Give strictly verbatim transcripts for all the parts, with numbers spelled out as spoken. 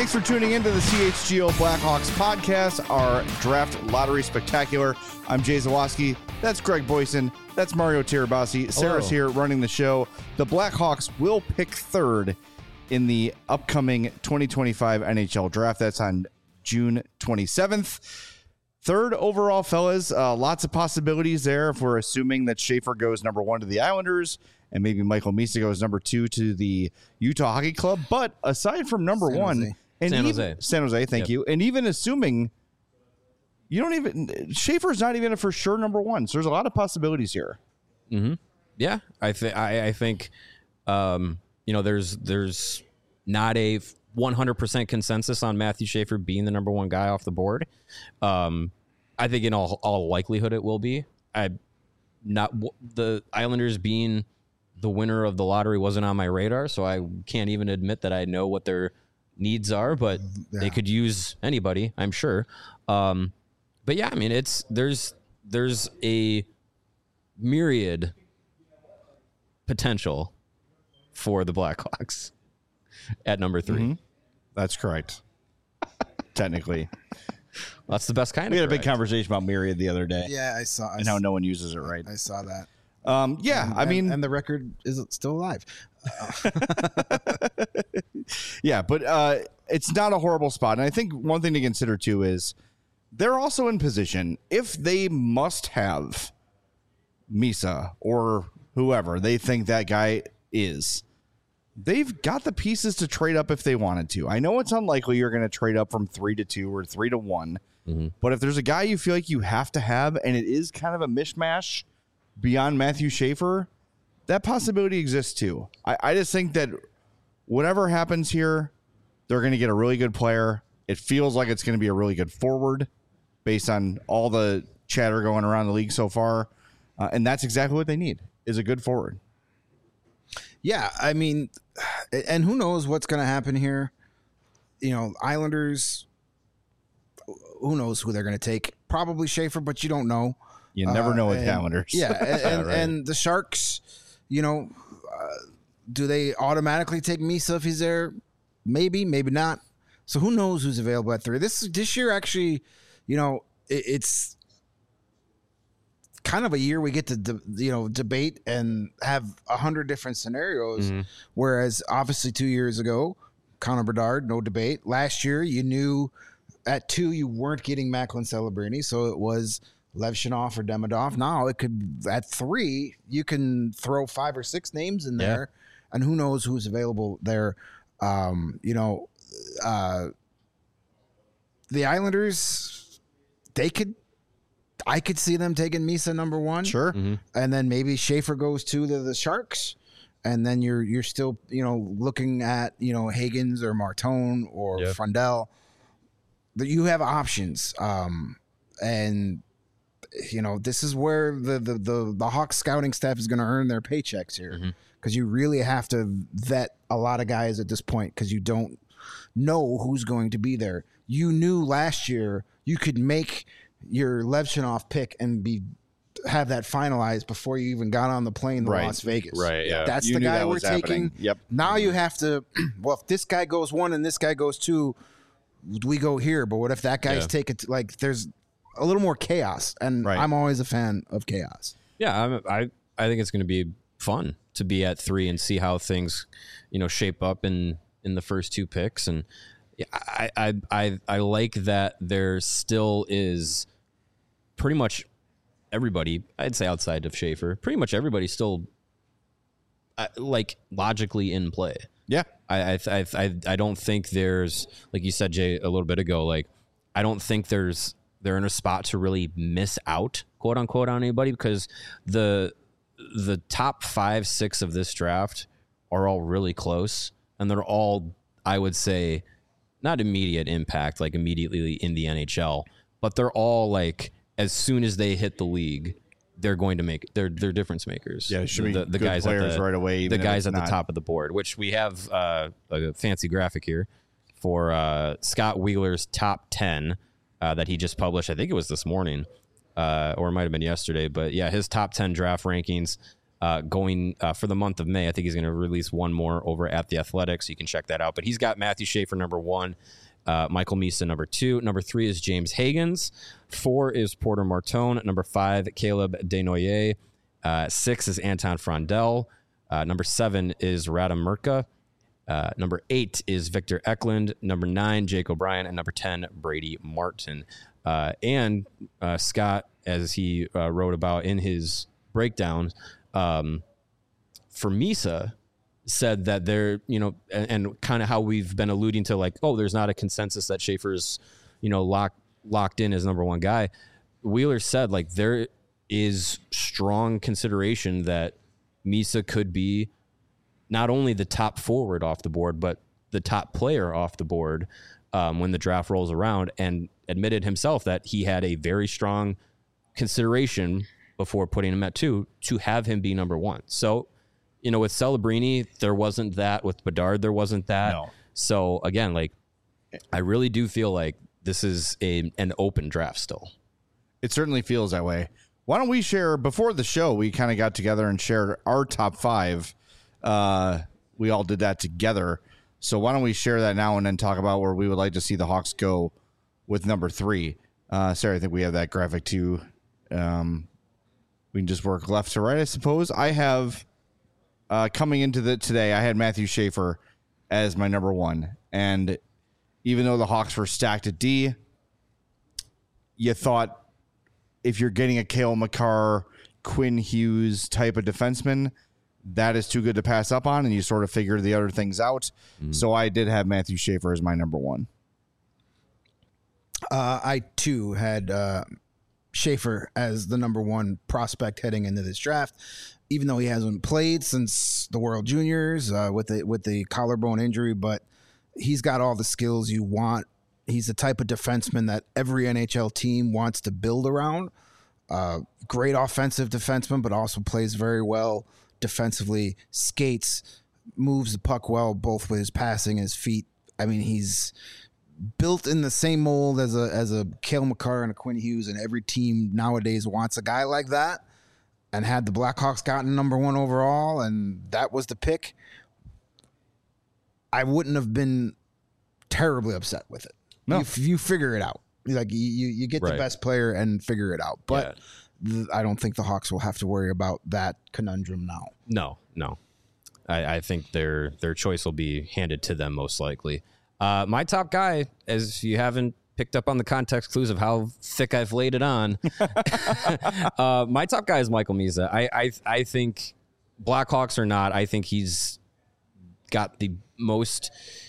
Thanks for tuning into the C H G O Blackhawks podcast, our draft lottery spectacular. I'm Jay Zawaski. That's Greg Boyson. That's Mario Tirabassi. Sarah's here running the show. The Blackhawks will pick third in the upcoming twenty twenty-five N H L draft. That's on June twenty-seventh. Third overall, fellas. Uh, lots of possibilities there if we're assuming that Schaefer goes number one to the Islanders and maybe Michael Misa goes number two to the Utah Hockey Club. But aside from number San one, Jose. and San even, Jose. San Jose, thank Yep. you. And even assuming you don't even Schaefer's not even a for sure number one. So there's a lot of possibilities here. Mm-hmm. Yeah, I think I, I think um, you know there's there's not a one hundred percent consensus on Matthew Schaefer being the number one guy off the board. Um, I think in all all likelihood it will be. I not the Islanders being the winner of the lottery wasn't on my radar, so I can't even admit that I know what their needs are. But Yeah. they could use anybody, I'm sure. Um, but yeah, I mean it's there's there's a myriad potential for the Blackhawks at number three. Mm-hmm. That's correct. Technically. That's the best kind We of had a big correct. conversation about Myriad the other day Yeah, I saw. I and how no one uses it right. I saw that. Um, yeah, And- I mean, and, and the record is still alive. yeah, but uh, it's not a horrible spot. And I think one thing to consider, too, is they're also in position if they must have Misa or whoever they think that guy is. They've got the pieces to trade up if they wanted to. I know it's unlikely you're going to trade up from three to two or three to one. Mm-hmm. But if there's a guy you feel like you have to have, and it is kind of a mishmash beyond Matthew Schaefer, that possibility exists too. I, I just think that whatever happens here, they're going to get a really good player. It feels like it's going to be a really good forward based on all the chatter going around the league so far. Uh, and that's exactly what they need, is a good forward. Yeah, I mean, and who knows what's going to happen here? You know, Islanders. Who knows who they're going to take? Probably Schaefer, but you don't know. You never Uh, know with and- Islanders. Yeah, and, and, Right. and the Sharks. You know, uh, do they automatically take Misa if he's there? Maybe, maybe not. So who knows who's available at three? This this year actually, you know, it, it's kind of a year we get to de- you know debate and have a hundred different scenarios. Mm-hmm. Whereas obviously two years ago, Connor Bedard, no debate. Last year, you knew at two you weren't getting Macklin Celebrini, so it was Levshunov or Demidov. Now it could at three you can throw five or six names in there, and who knows who's available there. Um, you know, uh, the Islanders, they could. I could see them taking Misa number one, Sure. Mm-hmm. and then maybe Schaefer goes to the, the Sharks, and then you're you're still you know looking at you know Higgins or Martone or Yep. Frundell. That you have options, um, and you know this is where the the the, the Hawks scouting staff is going to earn their paychecks here, because Mhm. you really have to vet a lot of guys at this point because you don't know who's going to be there. You knew last year you could make your Levshunov pick and be have that finalized before you even got on the plane to Right. Las Vegas. Right, yeah. That's You the knew guy that we're was taking. happening. Yep. Now you have to. Well, if this guy goes one and this guy goes two, we go here. But what if that guy's Yeah. taking like? There's a little more chaos, and Right. I'm always a fan of chaos. Yeah, I'm, I I think it's going to be fun to be at three and see how things, you know, shape up in in the first two picks. And yeah, I I I, I like that there still is pretty much everybody. I'd say outside of Schaefer, pretty much everybody still uh, like logically in play. Yeah. I I, I I I don't think there's, like you said, Jay, a little bit ago, like I don't think there's they're in a spot to really miss out, quote unquote, on anybody, because the the top five, six of this draft are all really close, and they're all, I would say, not immediate impact, like immediately in the N H L, but they're all like, as soon as they hit the league, they're going to make they're they're difference makers. Yeah, it should be the, the good guys players at the, right away, The even if guys it's at the not. top of the board, which we have uh, a fancy graphic here for uh, Scott Wheeler's top ten uh, that he just published. I think it was this morning, uh, or it might have been yesterday. But yeah, his top ten draft rankings. uh, going uh, for the month of May. I think he's going to release one more over at The Athletic, so you can check that out. But he's got Matthew Schaefer, number one, uh, Michael Misa, number two. Number three is James Hagans. Four is Porter Martone. Number five, Caleb Desnoyers. Uh, six is Anton Frondel. Uh, number seven is Radim Mrka. Uh, number eight is Victor Eklund. Number nine, Jake O'Brien. And number ten, Brady Martin. Uh, and uh, Scott, as he uh, wrote about in his breakdown, um, for Misa, said that they're, you know, and, and kind of how we've been alluding to, like, oh, there's not a consensus that Schaefer's, you know, locked locked in as number one guy. Wheeler said, like, there is strong consideration that Misa could be not only the top forward off the board, but the top player off the board um, when the draft rolls around, and admitted himself that he had a very strong consideration before putting him at two to have him be number one. So, you know, with Celebrini, there wasn't that. With Bedard, there wasn't that. No. So again, like, I really do feel like this is a an open draft still. It certainly feels that way. Why don't we share, before the show, we kind of got together and shared our top five. Uh, we all did that together. So why don't we share that now and then talk about where we would like to see the Hawks go with number three. Uh, Sarah, I think we have that graphic too. Um, we can just work left to right, I suppose. I have, uh, coming into the today, I had Matthew Schaefer as my number one. And even though the Hawks were stacked at D, you thought if you're getting a Cale Makar, Quinn Hughes type of defenseman, that is too good to pass up on, and you sort of figure the other things out. Mm-hmm. So I did have Matthew Schaefer as my number one. Uh, I, too, had uh, Schaefer as the number one prospect heading into this draft, even though he hasn't played since the World Juniors uh, with the, with the collarbone injury, but he's got all the skills you want. He's the type of defenseman that every N H L team wants to build around. Uh, great offensive defenseman, but also plays very well defensively, skates, moves the puck well, both with his passing and his feet. I mean, he's built in the same mold as a as a Cale Makar and a Quinn Hughes, and every team nowadays wants a guy like that. And had the Blackhawks gotten number one overall, and that was the pick, I wouldn't have been terribly upset with it. No. You, you figure it out. Like you, you get right. the best player and figure it out. But yeah. th- I don't think the Hawks will have to worry about that conundrum now. No, no. I, I think their their choice will be handed to them most likely. Uh, my top guy, as you haven't picked up on the context clues of how thick I've laid it on, uh, my top guy is Michael Misa. I, I I think Blackhawks or not, I think he's got the most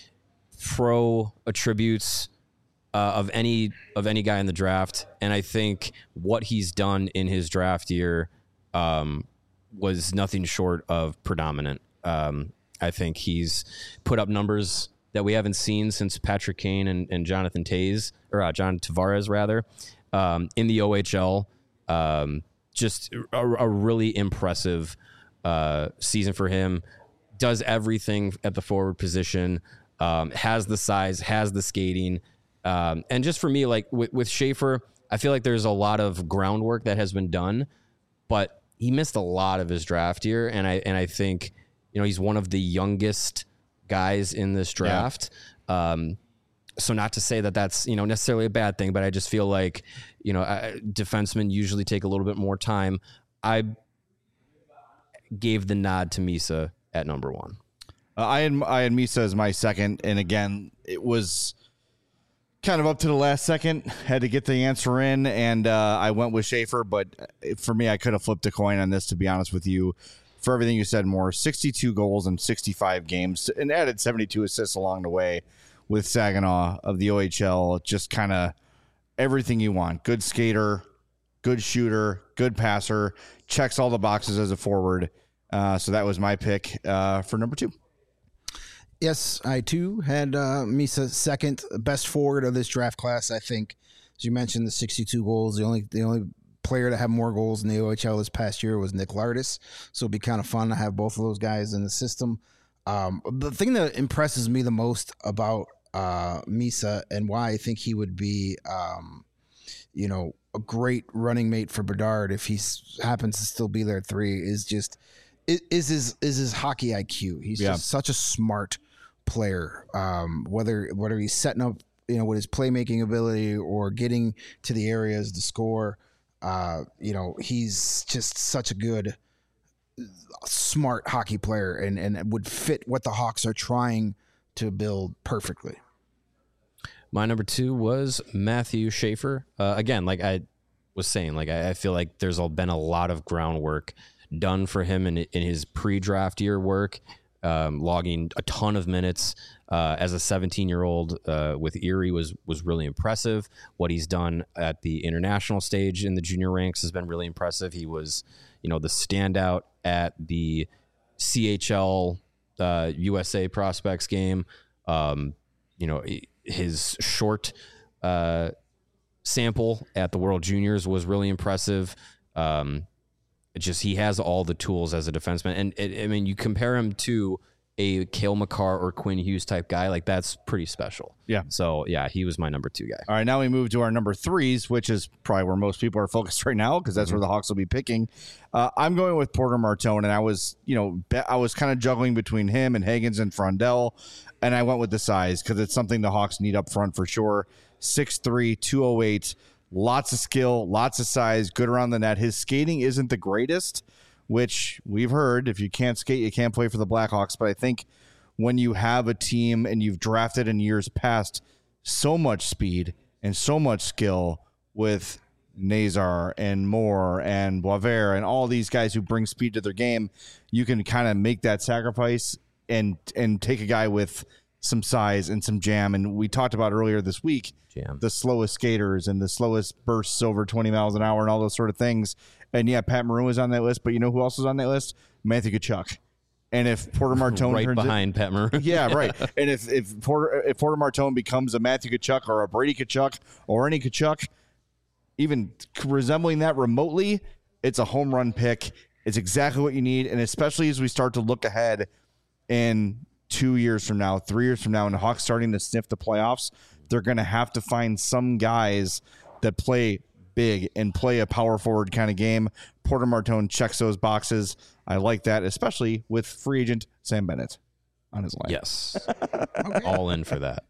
pro attributes uh, of any of any guy in the draft, and I think what he's done in his draft year um, was nothing short of predominant. Um, I think he's put up numbers that we haven't seen since Patrick Kane and, and Jonathan Toews, or uh, John Tavares rather, um, in the O H L. Um, just a, a really impressive uh, season for him. Does everything at the forward position. Um, has the size, has the skating. Um, and just for me, like with, with Schaefer, I feel like there's a lot of groundwork that has been done, but he missed a lot of his draft year. And I, and I think, you know, he's one of the youngest guys in this draft. Yeah. Um, so not to say that that's, you know, necessarily a bad thing, but I just feel like, you know, uh, defensemen usually take a little bit more time. I gave the nod to Misa at number one. Uh, I had I had Misa as my second, and again, it was kind of up to the last second. Had to get the answer in, and uh, I went with Schaefer. But for me, I could have flipped a coin on this, to be honest with you. For everything you said, more sixty-two goals in sixty-five games, and added seventy-two assists along the way with Saginaw of the O H L. Just kind of everything you want. Good skater, good shooter, good passer. Checks all the boxes as a forward. Uh, so that was my pick uh, for number two. Yes, I too had uh, Misa second, best forward of this draft class. I think, as you mentioned, the sixty-two goals. The only the only player to have more goals in the O H L this past year was Nick Lardis. So it'd be kind of fun to have both of those guys in the system. Um, the thing that impresses me the most about uh, Misa and why I think he would be, um, you know, a great running mate for Bedard if he happens to still be there at three is just is, is his is his hockey I Q. He's Yeah. just such a smart player. Um, whether whether he's setting up, you know, with his playmaking ability or getting to the areas to score, uh, you know, he's just such a good, smart hockey player, and and would fit what the Hawks are trying to build perfectly. My number two was Matthew Schaefer. Uh, again, like I was saying, like I, I feel like there's all been a lot of groundwork done for him in, in his pre-draft year work, um, logging a ton of minutes uh, as a seventeen-year-old uh, with Erie was was really impressive. What he's done at the international stage in the junior ranks has been really impressive. He was, you know, the standout at the C H L uh, U S A Prospects game. Um, you know, his short uh, sample at the World Juniors was really impressive. Um, it just he has all the tools as a defenseman, and it, I mean, you compare him to a Cale Makar or Quinn Hughes type guy, like that's pretty special. Yeah. So yeah, he was my number two guy. All right, now we move to our number threes, which is probably where most people are focused right now because that's mm-hmm. where the Hawks will be picking. Uh, I'm going with Porter Martone, and I was, you know, be- I was kind of juggling between him and Higgins and Frondell, and I went with the size because it's something the Hawks need up front for sure. six three, two oh eight, lots of skill, lots of size, good around the net. His skating isn't the greatest, which we've heard. If you can't skate, you can't play for the Blackhawks. But I think when you have a team and you've drafted in years past so much speed and so much skill with Nazar and Moore and Boisvert and all these guys who bring speed to their game, you can kind of make that sacrifice and and take a guy with some size and some jam. And we talked about earlier this week, Jam. the slowest skaters and the slowest bursts over twenty miles an hour and all those sort of things. And yeah, Pat Maroon was on that list, but you know who else was on that list? Matthew Tkachuk. And if Porter Martone right turns behind it, Pat Maroon, yeah, right. And if if Porter if Porter Martone becomes a Matthew Tkachuk or a Brady Tkachuk or any Tkachuk, even resembling that remotely, it's a home run pick. It's exactly what you need, and especially as we start to look ahead in two years from now, three years from now, and the Hawks starting to sniff the playoffs, they're going to have to find some guys that play big and play a power forward kind of game. Porter Martone checks those boxes. I like that, especially with free agent Sam Bennett on his line. Yes. Okay. All in for that.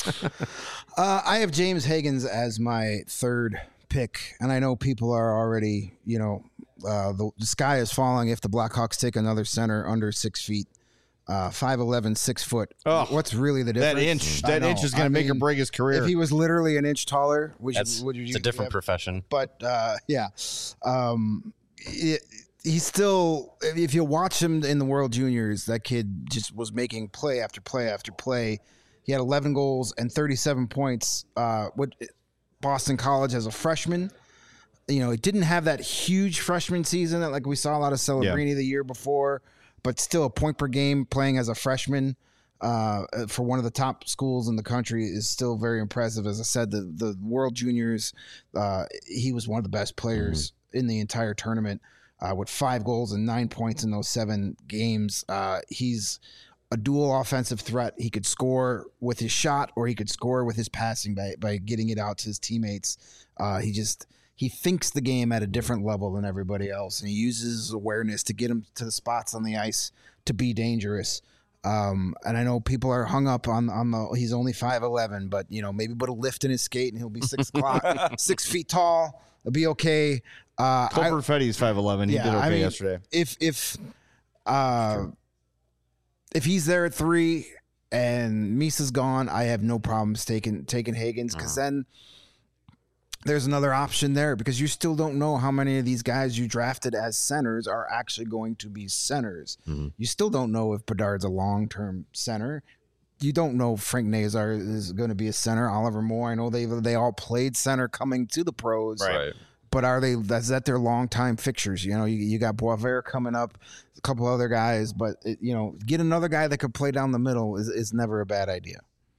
uh, I have James Higgins as my third pick, and I know people are already, you know, uh, the, the sky is falling if the Blackhawks take another center under six feet. Uh, five eleven, six foot. Oh, what's really the difference? That inch, that inch is going to make mean, or break his career. If he was literally an inch taller, which That's, would you? It's a different have, profession. But uh, yeah, um, it, he's still. If you watch him in the World Juniors, that kid just was making play after play after play. He had eleven goals and thirty-seven points. Uh, what Boston College as a freshman. You know, it didn't have that huge freshman season that like we saw a lot of Celebrini yeah. the year before. But still, a point per game playing as a freshman uh, for one of the top schools in the country is still very impressive. As I said, the the World Juniors, uh, he was one of the best players mm-hmm. in the entire tournament uh, with five goals and nine points in those seven games. Uh, he's a dual offensive threat. He could score with his shot or he could score with his passing by, by getting it out to his teammates. Uh, he just... He thinks the game at a different level than everybody else, and he uses his awareness to get him to the spots on the ice to be dangerous. Um, and I know people are hung up on on the he's only five eleven, but you know maybe put a lift in his skate and he'll be six o'clock, six feet tall. It'll be okay. Uh, Cole Perfetti's five eleven. He yeah, did okay I mean, yesterday. If if uh, if he's there at three and Misa's gone, I have no problems taking taking Higgins because uh-huh. then. There's another option there because you still don't know how many of these guys you drafted as centers are actually going to be centers. Mm-hmm. You still don't know if Bedard's a long-term center. You don't know if Frank Nazar is going to be a center. Oliver Moore, I know they they all played center coming to the pros. Right. But are they? Is that their long-time fixtures? You know, you, you got Boisvert coming up, a couple other guys, but it, you know, get another guy that could play down the middle is is never a bad idea.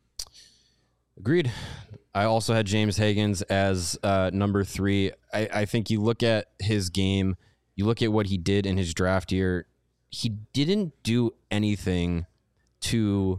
Agreed. I also had James Higgins as uh, number three. I, I think you look at his game, you look at what he did in his draft year. He didn't do anything to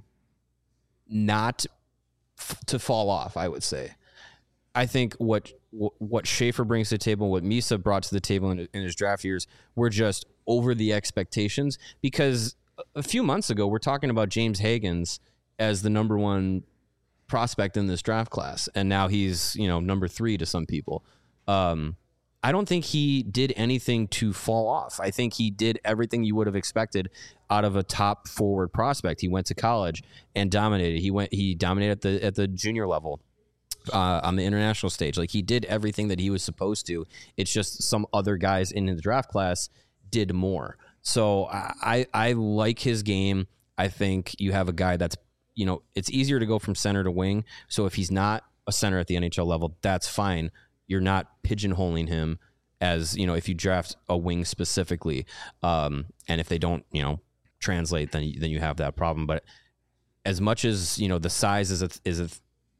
not f- to fall off, I would say. I think what what Schaefer brings to the table, what Misa brought to the table in, in his draft years, were just over the expectations, because a few months ago we're talking about James Higgins as the number one prospect in this draft class, and now he's, you know, number three to some people. Um, I don't think he did anything to fall off. I think he did everything you would have expected out of a top forward prospect. He went to college and dominated. He went, he dominated at the at the junior level, uh, on the international stage. Like, he did everything that he was supposed to. It's just some other guys in the draft class did more. So I I like his game. I think you have a guy that's, you know, it's easier to go from center to wing. So if he's not a center at the N H L level, that's fine. You're not pigeonholing him as, you know, if you draft a wing specifically, um, and if they don't, you know, translate, then then you have that problem. But as much as, you know, the size is a, is a,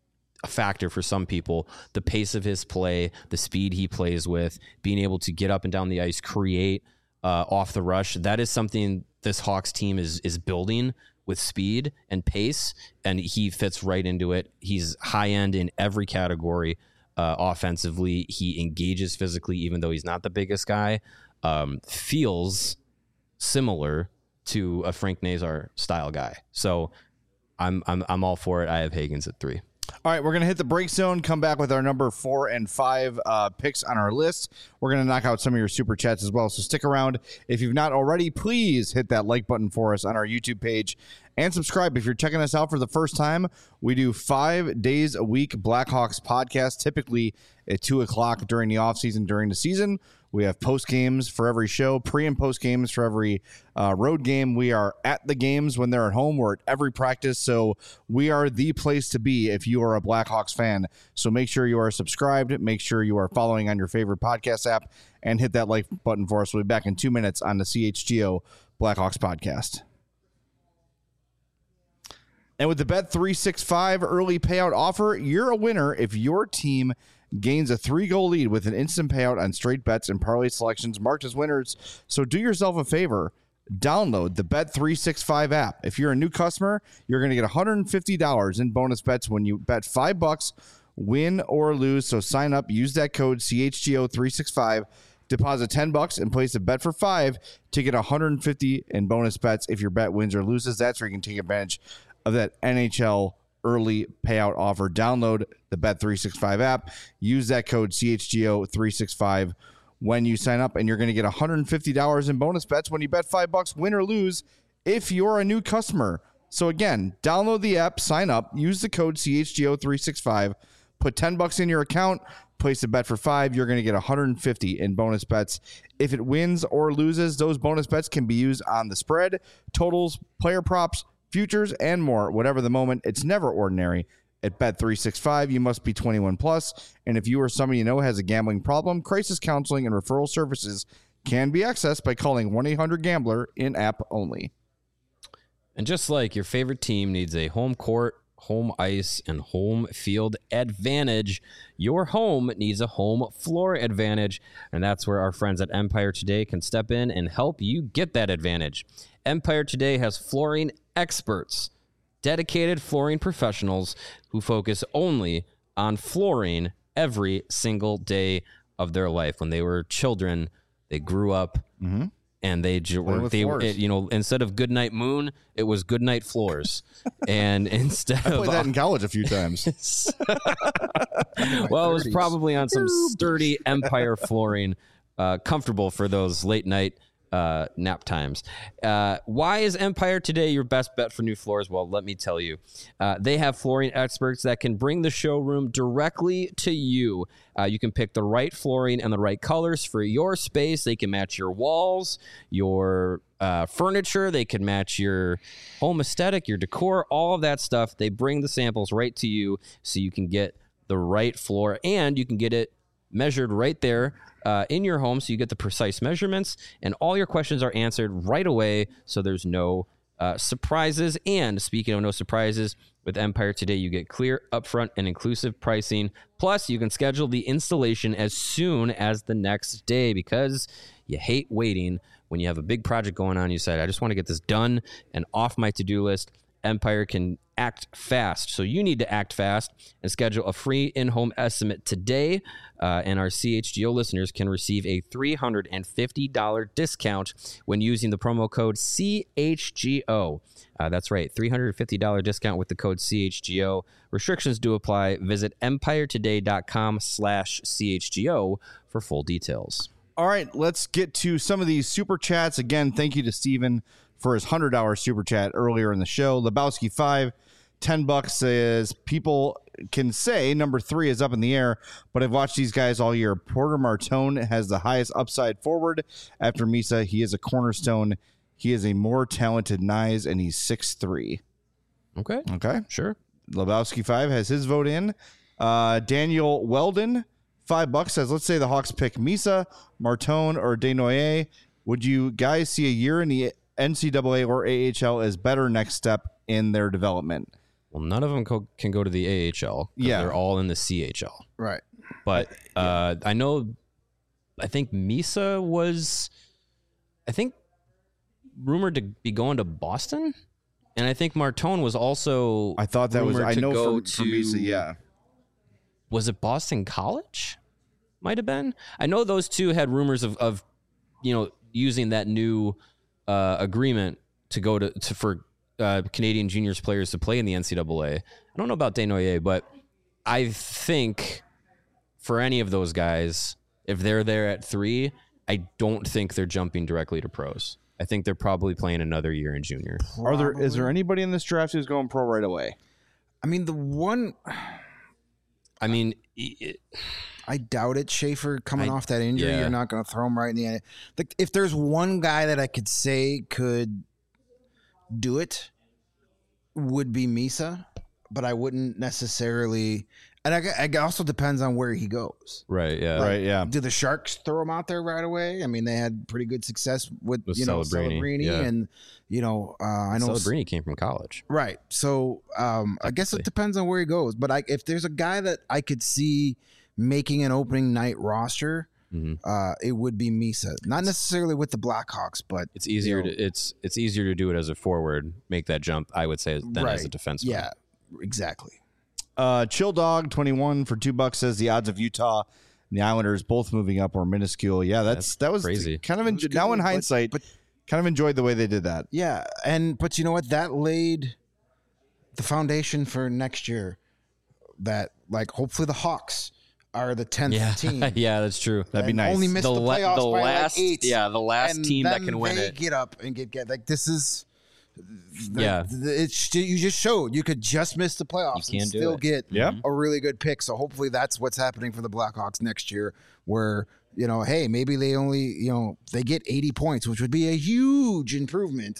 a factor for some people, the pace of his play, the speed he plays with, being able to get up and down the ice, create uh, off the rush, that is something this Hawks team is is building with speed and pace, and he fits right into it. He's high end in every category. Uh, offensively, he engages physically, even though he's not the biggest guy. Um, feels similar to a Frank Nazar style guy. So I'm I'm I'm all for it. I have Higgins at three. All right, we're going to hit the break zone, come back with our number four and five uh, picks on our list. We're going to knock out some of your super chats as well, so stick around. If you've not already, please hit that like button for us on our YouTube page and subscribe. If you're checking us out for the first time, we do five days a week Blackhawks podcast, typically at two o'clock during the offseason, during the season. We have post games for every show, pre and post games for every uh, road game. We are at the games when they're at home. We're at every practice. So we are the place to be if you are a Blackhawks fan. So make sure you are subscribed. Make sure you are following on your favorite podcast app, and hit that like button for us. We'll be back in two minutes on the C H G O Blackhawks podcast. And with the Bet three sixty-five early payout offer, you're a winner if your team gains a three-goal lead with an instant payout on straight bets and parlay selections marked as winners. So do yourself a favor. Download the Bet three sixty-five app. If you're a new customer, you're going to get one hundred fifty dollars in bonus bets when you bet five bucks, win or lose. So sign up, use that code C H G O three sixty-five, deposit ten bucks and place a bet for five to get one hundred fifty in bonus bets if your bet wins or loses. That's where you can take advantage of that N H L early payout offer. Download the Bet three sixty-five app. Use that code C H G O three sixty-five when you sign up, and you're going to get one hundred fifty dollars in bonus bets when you bet five bucks, win or lose, if you're a new customer. So again, download the app, sign up, use the code C H G O three sixty-five, put ten bucks in your account, place a bet for five. You're going to get one hundred fifty in bonus bets. If it wins or loses, those bonus bets can be used on the spread, totals, player props, futures, and more. Whatever the moment, it's never ordinary. At Bet three sixty-five, you must be twenty-one plus, and if you or somebody you know has a gambling problem, crisis counseling and referral services can be accessed by calling one eight hundred gambler in-app only. And just like your favorite team needs a home court, home ice, and home field advantage, your home needs a home floor advantage, and that's where our friends at Empire Today can step in and help you get that advantage. Empire Today has flooring experts, dedicated flooring professionals who focus only on flooring every single day of their life. When they were children, they grew up mm-hmm. and they, they it, you know, instead of Goodnight Moon, it was Goodnight Floors. And instead I played of that in college a few times. Well, it was probably on some sturdy Empire flooring, uh, comfortable for those late night Uh, nap times. Uh, why is Empire Today your best bet for new floors? Well, let me tell you. Uh, they have flooring experts that can bring the showroom directly to you. Uh, you can pick the right flooring and the right colors for your space. They can match your walls, your uh, furniture. They can match your home aesthetic, your decor, all of that stuff. They bring the samples right to you so you can get the right floor, and you can get it measured right there uh, in your home, so you get the precise measurements, and all your questions are answered right away, so there's no uh, surprises. And speaking of no surprises, with Empire Today, you get clear, upfront, and inclusive pricing. Plus, you can schedule the installation as soon as the next day, because you hate waiting when you have a big project going on. You said, I just want to get this done and off my to-do list. Empire can act fast. So you need to act fast and schedule a free in-home estimate today. Uh, and our C H G O listeners can receive a three hundred fifty dollars discount when using the promo code C H G O. Uh, that's right, three hundred fifty dollars discount with the code C H G O. Restrictions do apply. Visit empiretoday.com slash CHGO for full details. All right, let's get to some of these super chats. Again, thank you to Steven for his one hundred dollars super chat earlier in the show. Lebowski five, ten bucks says, people can say number three is up in the air, but I've watched these guys all year. Porter Martone has the highest upside forward after Misa. He is a cornerstone. He is a more talented Nyes, and he's six three. Okay. Okay. Sure. Lebowski five has his vote in. Uh, Daniel Weldon, five bucks, says, let's say the Hawks pick Misa, Martone, or Desnoyers. Would you guys see a year in the N C double A or A H L as better next step in their development? Well, none of them co- can go to the A H L. Yeah. They're all in the C H L. Right. But uh, I know, I think Misa was, I think, rumored to be going to Boston. And I think Martone was also. I thought that was, rumored I to know go for, for Misa, yeah. Was it Boston College? Might have been. I know those two had rumors of, of you know, using that new uh, agreement to go to, to for uh, Canadian juniors players to play in the N C double A. I don't know about Desnoyers, but I think for any of those guys, if they're there at three, I don't think they're jumping directly to pros. I think they're probably playing another year in junior. Are there, is there anybody in this draft who's going pro right away? I mean, the one, I mean, it, I doubt it. Schaefer coming I- off that injury, yeah. you're not going to throw him right in the end. Like, if there's one guy that I could say could do it, would be Misa, but I wouldn't necessarily. And I, gu- it also depends on where he goes. right, yeah. Right, yeah. Do the Sharks throw him out there right away? I mean, they had pretty good success with, With you know Celebrini, Celebrini, yeah. and you know uh, I know Celebrini came from college. right. So um, I guess Technically. it depends on where he goes. But I, if there's a guy that I could see making an opening night roster, Mhm. uh, it would be Misa. Not necessarily with the Blackhawks, but It's easier you know, to it's it's easier to do it as a forward, make that jump, I would say, than as a Right. defenseman. yeah, exactly. Uh, Chill Dog twenty-one for two bucks says the odds of Utah and the Islanders both moving up are minuscule. Yeah, that's, That's that was crazy. kind of It was enjo- now good, in but- hindsight, but- kind of enjoyed the way they did that. Yeah, and but you know what? That laid the foundation for next year. That like hopefully the Hawks are the tenth Yeah, team. yeah, that's true. That'd be and nice. Only missed the, la- playoffs the by last, like eight. yeah, the last and team that then can win they it. get up and get get like this is. Yeah. it's you just showed you could just miss the playoffs You and can do still it. get Yeah. a really good pick. So hopefully that's what's happening for the Blackhawks next year, where you know, hey, maybe they only you know they get eighty points, which would be a huge improvement,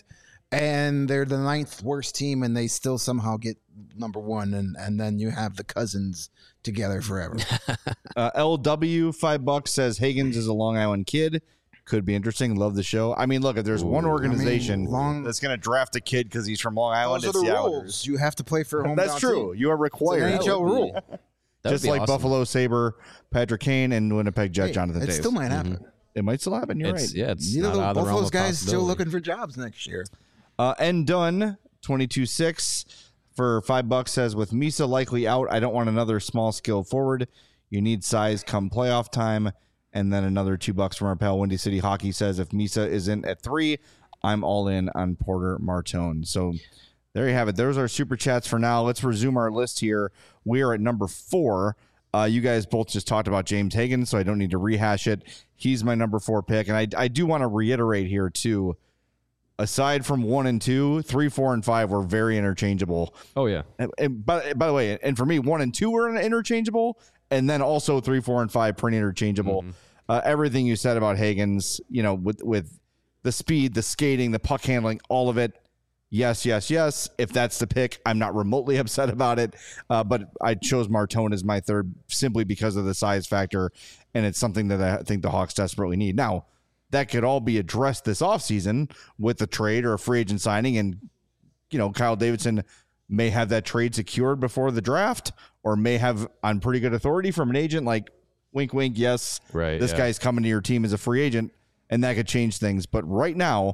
and they're the ninth worst team, and they still somehow get number one, and and then you have the Cousins together forever. Uh, L W five bucks says Higgins is a Long Island kid. Could be interesting. Love the show. I mean, look, if there's one Ooh. organization I mean, Long- that's going to draft a kid because he's from Long Island, Those are it's the the rules. Islanders. You have to play for a hometown That's true. team. You are It's required. an N H L would be- rule. That would Just be like awesome. Buffalo Sabre, Patrick Kane, and Winnipeg Jet Hey, Jonathan it Davis. still might happen. It might still happen. You're It's, right. Yeah, it's Neither not of out of those, the both realm those of guys still possibility. looking for jobs next year. Uh, and done twenty-two six for five bucks says with Misa likely out, I don't want another small skill forward. You need size come playoff time. And then another two bucks from our pal Windy City Hockey says if Misa isn't at three, I'm all in on Porter Martone. So there you have it. There's our super chats for now. Let's resume our list here. We are at number four. Uh, you guys both just talked about James Higgins, so I don't need to rehash it. He's my number four pick. And I, I do want to reiterate here, too. Aside from one and two, three, four, and five were very interchangeable. Oh yeah, And, and by, by the way, and for me, one and two were interchangeable, and then also three, four, and five pretty interchangeable. Mm-hmm. Uh, everything you said about Higgins, you know, with with the speed, the skating, the puck handling, all of it. Yes, yes, yes. If that's the pick, I'm not remotely upset about it. Uh, but I chose Martone as my third simply because of the size factor, and it's something that I think the Hawks desperately need. Now, that could all be addressed this offseason with a trade or a free agent signing, and you know, Kyle Davidson may have that trade secured before the draft, or may have on pretty good authority from an agent like wink, wink, yes, Right, this yeah. guy's coming to your team as a free agent, and that could change things. But right now,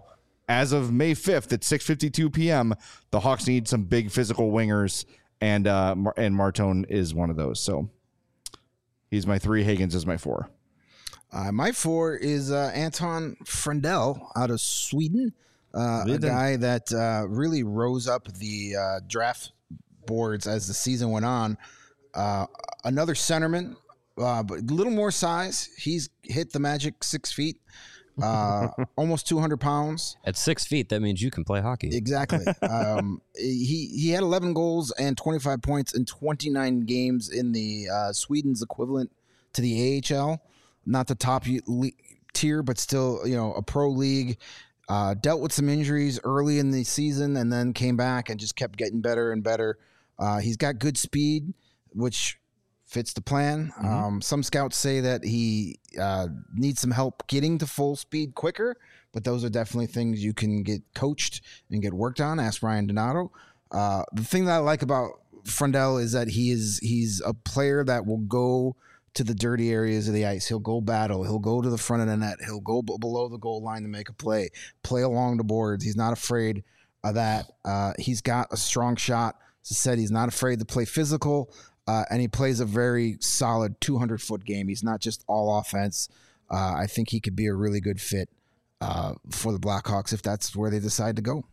as of May fifth at six fifty-two p.m., the Hawks need some big physical wingers, and uh, Mar- and Martone is one of those. So he's my three. Higgins is my four. Uh, my four is uh, Anton Frendell out of Sweden, uh, a guy that uh, really rose up the uh, draft boards as the season went on. Uh, another centerman, uh, but a little more size. He's hit the magic six feet, uh, almost two hundred pounds. At six feet, that means you can play hockey. Exactly. um, he he had eleven goals and twenty-five points in twenty-nine games in the uh, Sweden's equivalent to the A H L. Not the top le- tier, but still, you know, a pro league. Uh, dealt with some injuries early in the season and then came back and just kept getting better and better. Uh, he's got good speed, which fits the plan. Mm-hmm. Um, some scouts say that he uh, needs some help getting to full speed quicker, but those are definitely things you can get coached and get worked on. Ask Ryan Donato. Uh, the thing that I like about Frendell is that he is he's a player that will go to the dirty areas of the ice. He'll go battle. He'll go to the front of the net. He'll go b- below the goal line to make a play, play along the boards. He's not afraid of that. Uh, he's got a strong shot. As I said, he's not afraid to play physical, uh, and he plays a very solid two hundred foot game. He's not just all offense. Uh, I think he could be a really good fit uh, for the Blackhawks if that's where they decide to go.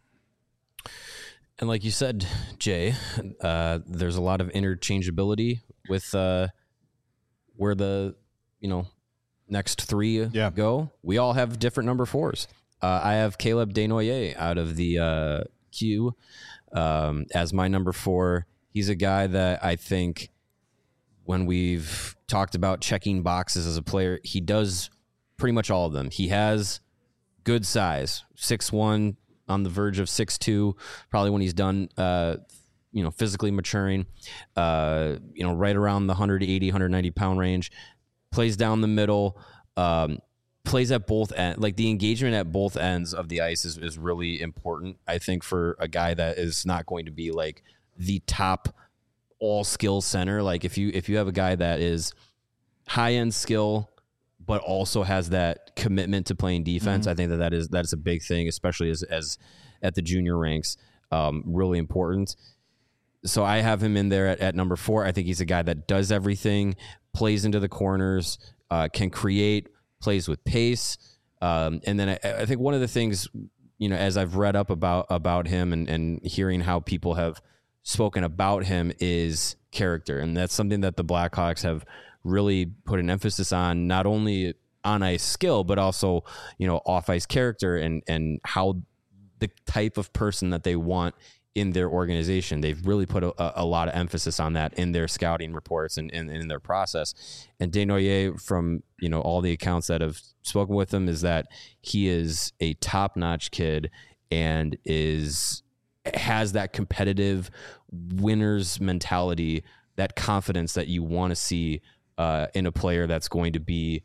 And like you said, Jay, uh, there's a lot of interchangeability with uh, where the, you know, next three yeah. go. We all have different number fours. Uh, I have Caleb Desnoyers out of the uh, Q um, as my number four. He's a guy that I think when we've talked about checking boxes as a player, he does pretty much all of them. He has good size, six one, on the verge of six two, probably when he's done, uh, you know, physically maturing, uh, you know, right around the one eighty, one ninety pound range, plays down the middle, um, plays at both ends. Like the engagement at both ends of the ice is, is really important, I think, for a guy that is not going to be like the top all skill center. Like if you, if you have a guy that is high end skill, but also has that commitment to playing defense, mm-hmm. I think that that is, that is a big thing, especially as, as at the junior ranks, um, really important. So I have him in there at, at number four. I think he's a guy that does everything, plays into the corners, uh, can create, plays with pace. Um, and then I, I think one of the things, you know, as I've read up about, about him and, and hearing how people have spoken about him is character. And that's something that the Blackhawks have really put an emphasis on, not only on ice skill, but also, you know, off ice character and, and how the type of person that they want in their organization. They've really put a, a lot of emphasis on that in their scouting reports and, and, and in their process. And Desnoyers, from, you know, all the accounts that have spoken with him, is that he is a top-notch kid and is has that competitive winner's mentality, that confidence that you want to see uh, in a player that's going to be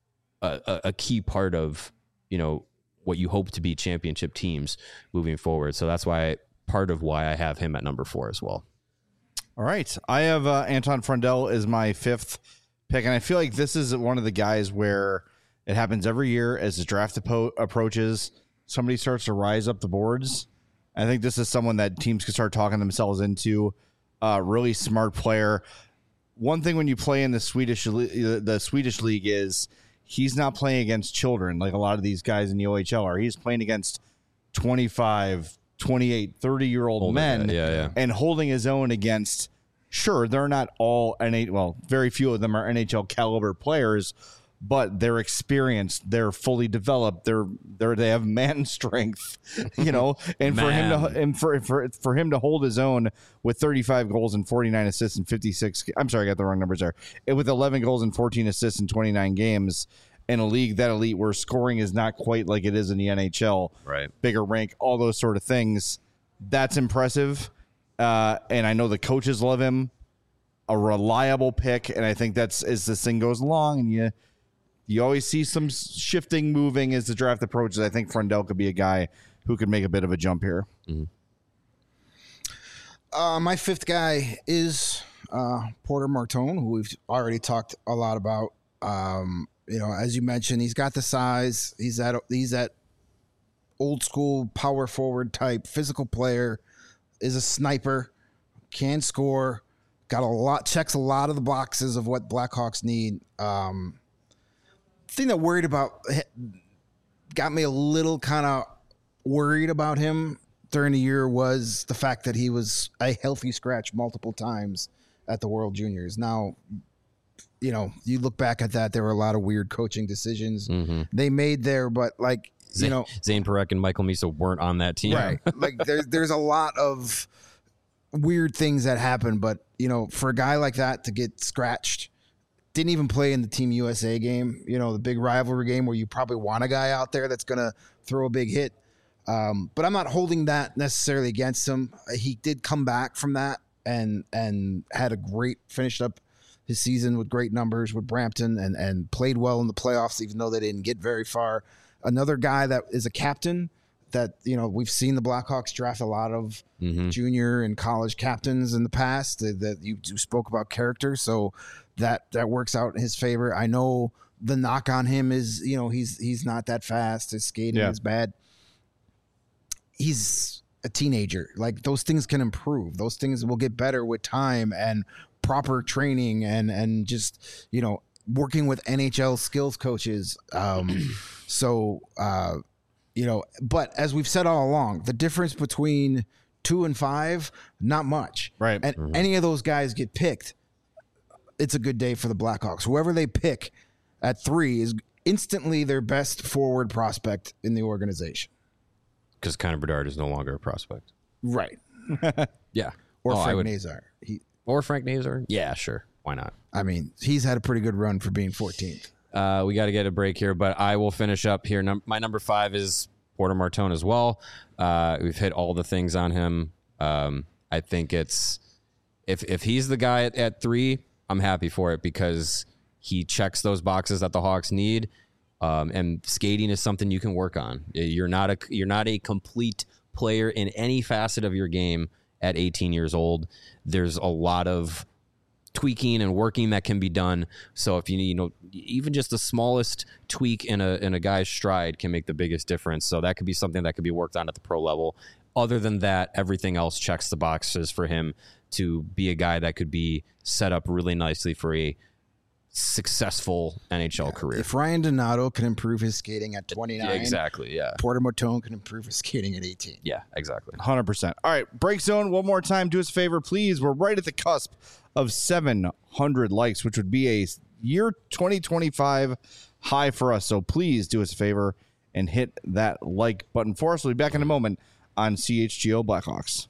a, a key part of, you know, what you hope to be championship teams moving forward. So that's why part of why I have him at number four as well. All right. I have uh, Anton Frendell as my fifth pick. And I feel like this is one of the guys where it happens every year as the draft apo- approaches, somebody starts to rise up the boards. I think this is someone that teams can start talking themselves into. Uh, really smart player. One thing when you play in the Swedish, the Swedish league is he's not playing against children like a lot of these guys in the O H L are. He's playing against twenty-five, twenty-eight, thirty-year-old Older men guy. Yeah, yeah. and holding his own against, sure, they're not all N H L, well, very few of them are N H L caliber players, but they're experienced, they're fully developed, they're they're they have man strength, you know, and for him to and for for for him to hold his own with thirty-five goals and forty-nine assists and fifty-six, I'm sorry, I got the wrong numbers there. It, with eleven goals and fourteen assists in twenty-nine games in a league that elite where scoring is not quite like it is in the N H L, right? Bigger rank, all those sort of things. That's impressive. Uh, and I know the coaches love him. A reliable pick, and I think that's as this thing goes along, and you you always see some shifting, moving as the draft approaches. I think Frendell could be a guy who could make a bit of a jump here. Mm-hmm. Uh, my fifth guy is uh, Porter Martone, who we've already talked a lot about. Um, you know, as you mentioned, he's got the size. He's at he's at old school power forward type, physical player, is a sniper, can score, got a lot, checks a lot of the boxes of what Blackhawks need. Um, thing that worried about, got me a little kind of worried about him during the year was the fact that he was a healthy scratch multiple times at the World Juniors. Now, you know, you look back at that, there were a lot of weird coaching decisions mm-hmm. they made there, but like, you know, Zane Parekh and Michael Misa weren't on that team. Right. Like there's, there's a lot of weird things that happen, but you know, for a guy like that to get scratched, didn't even play in the Team U S A game, you know, the big rivalry game where you probably want a guy out there that's going to throw a big hit. Um, but I'm not holding that necessarily against him. He did come back from that and, and had a great, finished up his season with great numbers with Brampton and, and played well in the playoffs, even though they didn't get very far. Another guy that is a captain that, you know, we've seen the Blackhawks draft a lot of mm-hmm. junior and college captains in the past that, that you, you spoke about character. So that, that works out in his favor. I know the knock on him is, you know, he's, he's not that fast. His skating yeah. is bad. He's a teenager. Like those things can improve. Those things will get better with time and proper training and, and just, you know, working with N H L skills coaches. Um, so, uh, you know, but as we've said all along, the difference between two and five, not much. Right. And mm-hmm. any of those guys get picked, it's a good day for the Blackhawks. Whoever they pick at three is instantly their best forward prospect in the organization. Because Connor Bedard is no longer a prospect. Right. yeah. Or oh, Frank would, Nazar. He, or Frank Nazar. Yeah, sure. Why not? I mean, he's had a pretty good run for being fourteenth. Uh, we got to get a break here, but I will finish up here. Num- my number five is Porter Martone as well. Uh, we've hit all the things on him. Um, I think it's if if he's the guy at, at three, I'm happy for it because he checks those boxes that the Hawks need. Um, and skating is something you can work on. You're not a you're not a complete player in any facet of your game at eighteen years old. There's a lot of tweaking and working that can be done. So if you need, you know, even just the smallest tweak in a in a guy's stride can make the biggest difference. So that could be something that could be worked on at the pro level. Other than that, everything else checks the boxes for him to be a guy that could be set up really nicely for a successful N H L yeah. career. If Ryan Donato can improve his skating at twenty-nine, yeah, exactly, yeah. Porter Martone can improve his skating at eighteen. Yeah, exactly. one hundred percent. All right, Break Zone, one more time. Do us a favor, please. We're right at the cusp of seven hundred likes, which would be a year twenty twenty-five high for us. So please do us a favor and hit that like button for us. We'll be back in a moment on C H G O Blackhawks.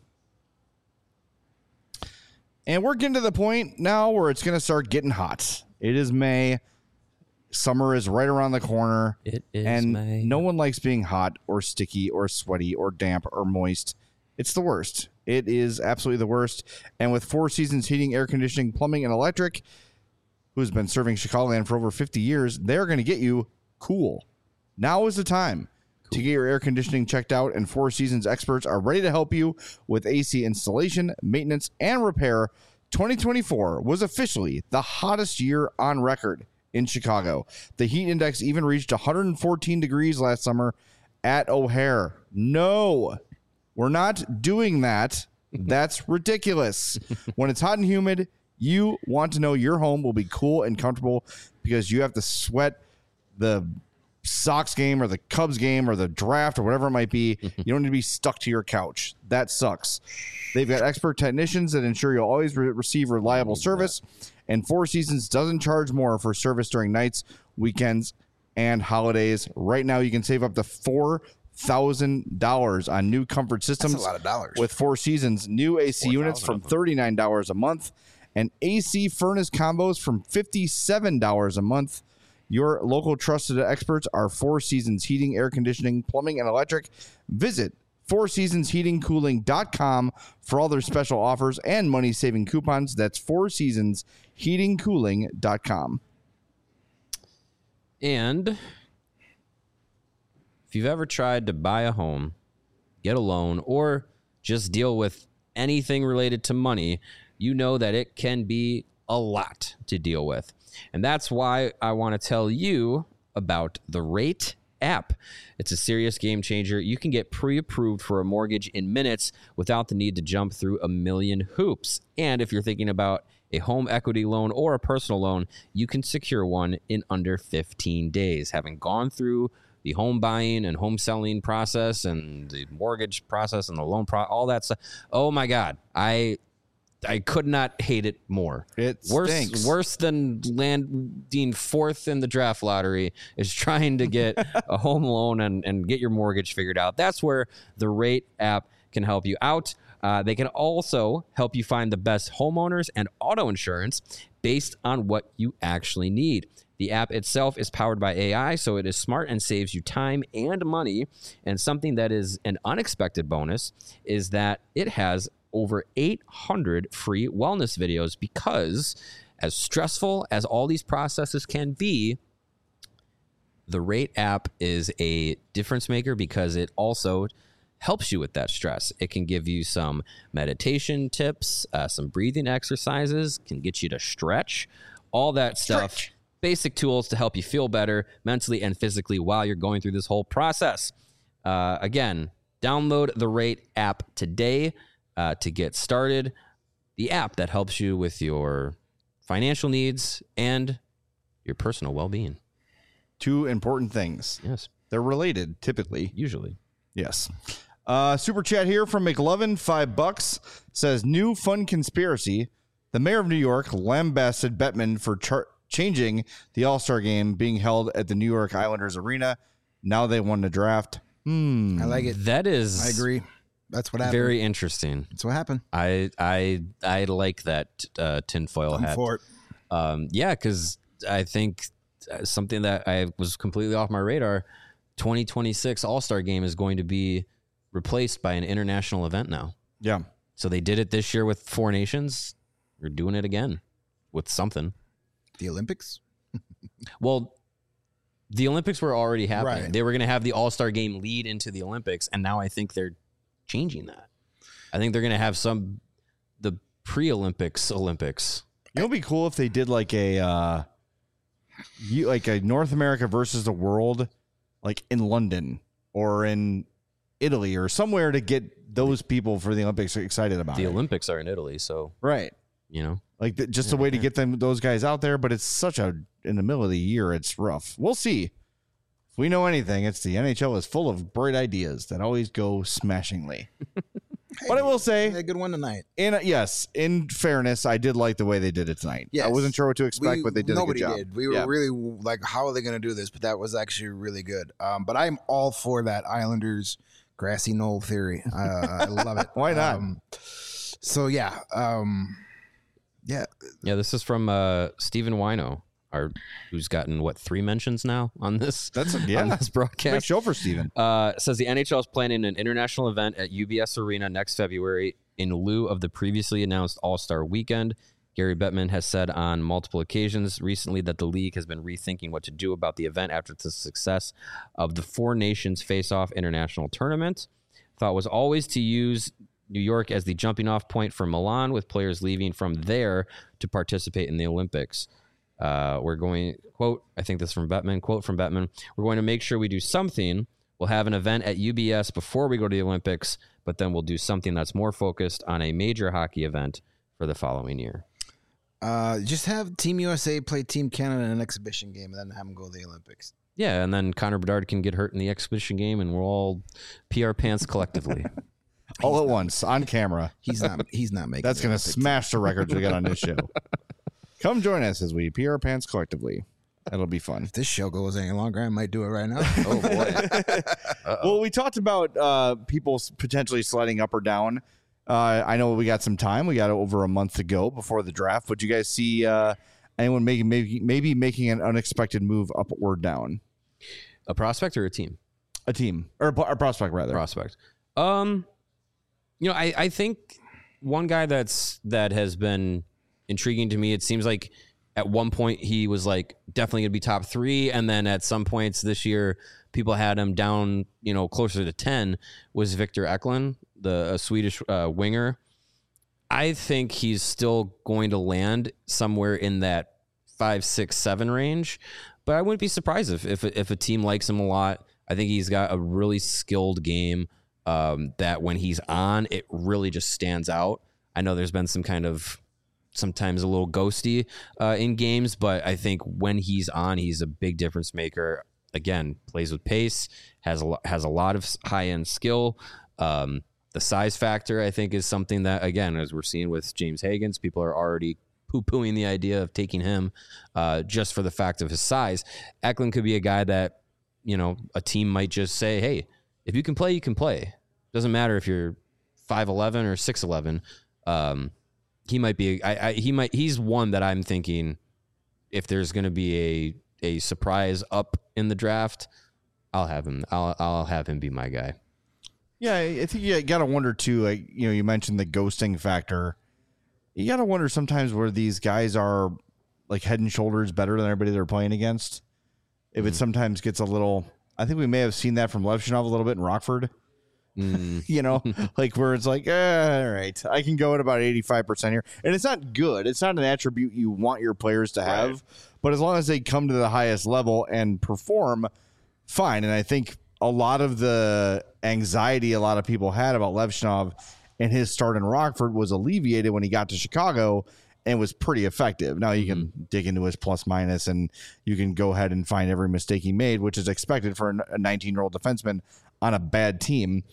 And we're getting to the point now where it's going to start getting hot. It is May. Summer is right around the corner. It is and May. No one likes being hot or sticky or sweaty or damp or moist. It's the worst. It is absolutely the worst. And with Four Seasons Heating, Air Conditioning, Plumbing, and Electric, who's been serving Chicagoland for over fifty years, they're going to get you cool. Now is the time cool. to get your air conditioning checked out, and Four Seasons experts are ready to help you with A C installation, maintenance, and repair. twenty twenty-four was officially the hottest year on record in Chicago. The heat index even reached one hundred fourteen degrees last summer at O'Hare. No, we're not doing that. That's ridiculous. When it's hot and humid, you want to know your home will be cool and comfortable because you have to sweat the Sox game or the Cubs game or the draft or whatever it might be. You don't need to be stuck to your couch. That sucks. They've got expert technicians that ensure you'll always re- receive reliable service. And Four Seasons doesn't charge more for service during nights, weekends, and holidays. Right now, you can save up to four thousand dollars on new comfort systems. That's a lot of dollars. With Four Seasons new A C units from thirty-nine dollars a month and A C furnace combos from fifty-seven dollars a month. Your local trusted experts are Four Seasons Heating, Air Conditioning, Plumbing, and Electric. Visit four seasons heating cooling dot com for all their special offers and money-saving coupons. That's four seasons heating cooling dot com. And if you've ever tried to buy a home, get a loan, or just deal with anything related to money, you know that it can be a lot to deal with. And that's why I want to tell you about the Rate app. It's a serious game changer. You can get pre-approved for a mortgage in minutes without the need to jump through a million hoops. And if you're thinking about a home equity loan or a personal loan, you can secure one in under fifteen days. Having gone through the home buying and home selling process and the mortgage process and the loan pro, all that stuff. Oh my God. I I could not hate it more. It worse, stinks. worse than landing fourth in the draft lottery is trying to get a home loan and, and get your mortgage figured out. That's where the Rate app can help you out. Uh, they can also help you find the best homeowners and auto insurance based on what you actually need. The app itself is powered by A I, so it is smart and saves you time and money. And something that is an unexpected bonus is that it has over eight hundred free wellness videos because, as stressful as all these processes can be, the Rate app is a difference maker because it also helps you with that stress. It can give you some meditation tips, uh, some breathing exercises, can get you to stretch, all that stuff. Stretch. Basic tools to help you feel better mentally and physically while you're going through this whole process. Uh, again, download the Rate app today uh, to get started. The app that helps you with your financial needs and your personal well-being. Two important things. Yes. They're related, typically. Usually. Yes. Uh, super chat here from McLovin, five bucks, says, new fun conspiracy. The mayor of New York lambasted Bettman for char- changing the All-Star game being held at the New York Islanders Arena. Now they won the draft. Hmm. I like it. That is I agree. That's what happened. very interesting. That's what happened. I I I like that uh, tinfoil I'm hat. for it. Um, yeah, because I think uh, something that I was completely off my radar, twenty twenty-six All-Star Game is going to be replaced by an international event now. Yeah. So they did it this year with four nations. They're doing it again with something. The Olympics? Well, the Olympics were already happening. Right. They were going to have the All-Star Game lead into the Olympics, and now I think they're changing that. I think they're going to have some the pre-Olympics Olympics. You know, it'd be cool if they did like a uh, you, like a North America versus the world, like in London or in Italy or somewhere to get those people for the Olympics excited about The it. Olympics are in Italy, so Right. you know. Like the, just a way to get them those guys out there, but it's such a in the middle of the year, it's rough. We'll see. If we know anything, it's the N H L is full of bright ideas that always go smashingly. But I will say, They had a good one tonight. in yes, in fairness, I did like the way they did it tonight. Yes. I wasn't sure what to expect, We- but they did nobody a good job. did. We were Yeah. really like, how are they going to do this? But that was actually really good. Um, but I'm all for that Islanders grassy knoll theory. Uh, I love it. Why not? Um, so yeah, um, yeah. Yeah, this is from uh, Stephen Wino, our who's gotten what three mentions now on this. That's a, on yeah. this Big broadcast. show for Steven. Uh, says the N H L is planning an international event at U B S Arena next February in lieu of the previously announced All-Star Weekend. Gary Bettman has said on multiple occasions recently that the league has been rethinking what to do about the event after the success of the Four Nations Face-Off International Tournament. Thought was always to use New York as the jumping off point for Milan, with players leaving from there to participate in the Olympics. Uh, we're going, quote, I think this is from Bettman, quote from Bettman, we're going to make sure we do something. We'll have an event at U B S before we go to the Olympics, but then we'll do something that's more focused on a major hockey event for the following year. Uh, just have Team U S A play Team Canada in an exhibition game, and then have them go to the Olympics. Yeah, and then Connor Bedard can get hurt in the exhibition game, and we'll all pee our pants collectively. All at once on camera. He's not. He's not making. That's the going to Olympics. smash the records we got on this show. Come join us as we pee our pants collectively. That'll be fun. If this show goes any longer, I might do it right now. Oh, boy. Well, we talked about uh, people s- potentially sliding up or down. Uh, I know we got some time. We got over a month to go before the draft. Would you guys see uh, anyone making maybe maybe making an unexpected move up or down? A prospect or a team? A team or a, a prospect rather. Prospect. Um, you know, I, I think one guy that's that has been intriguing to me. It seems like at one point he was like definitely going to be top three, and then at some points this year, people had him down, you know, closer to ten. Was Victor Eklund, the a Swedish uh, winger? I think he's still going to land somewhere in that five, six, seven range. But I wouldn't be surprised if if, if a team likes him a lot. I think he's got a really skilled game um, that when he's on, it really just stands out. I know there's been some kind of sometimes a little ghosty uh, in games, but I think when he's on, he's a big difference maker. Again, plays with pace, has a lo- has a lot of high end skill. Um, the size factor, I think, is something that, again, as we're seeing with James Higgins, people are already poo-pooing the idea of taking him uh, just for the fact of his size. Eklund could be a guy that, you know, a team might just say, hey, if you can play, you can play. Doesn't matter if you're five eleven or six eleven. Um, he might be, I, I, he might, he's one that I'm thinking if there's going to be a, a surprise up in the draft, I'll have him, I'll, I'll have him be my guy. Yeah, I think you got to wonder too, like, you know, you mentioned the ghosting factor. You got to wonder sometimes where these guys are like head and shoulders better than everybody they're playing against. If mm. it sometimes gets a little, I think we may have seen that from Levchinov a little bit in Rockford. Mm. You know, like where it's like, eh, all right, I can go at about eighty-five percent here. And it's not good. It's not an attribute you want your players to have. Right. But as long as they come to the highest level and perform, fine. And I think a lot of the anxiety a lot of people had about Levchinov and his start in Rockford was alleviated when he got to Chicago and was pretty effective. Now you can mm-hmm. dig into his plus minus and you can go ahead and find every mistake he made, which is expected for a nineteen-year-old defenseman on a bad team.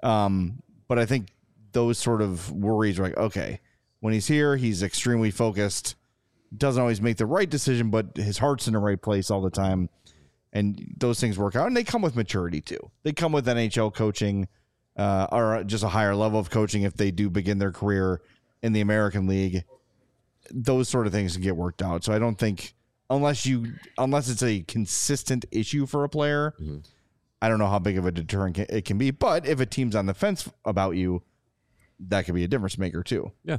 Um, but I think those sort of worries are like, okay, when he's here, he's extremely focused, doesn't always make the right decision, but his heart's in the right place all the time. And those things work out. And they come with maturity too. They come with N H L coaching uh, or just a higher level of coaching if they do begin their career in the American League. Those sort of things can get worked out. So I don't think unless you unless it's a consistent issue for a player, mm-hmm. I don't know how big of a deterrent it can be. But if a team's on the fence about you, that could be a difference maker too. Yeah.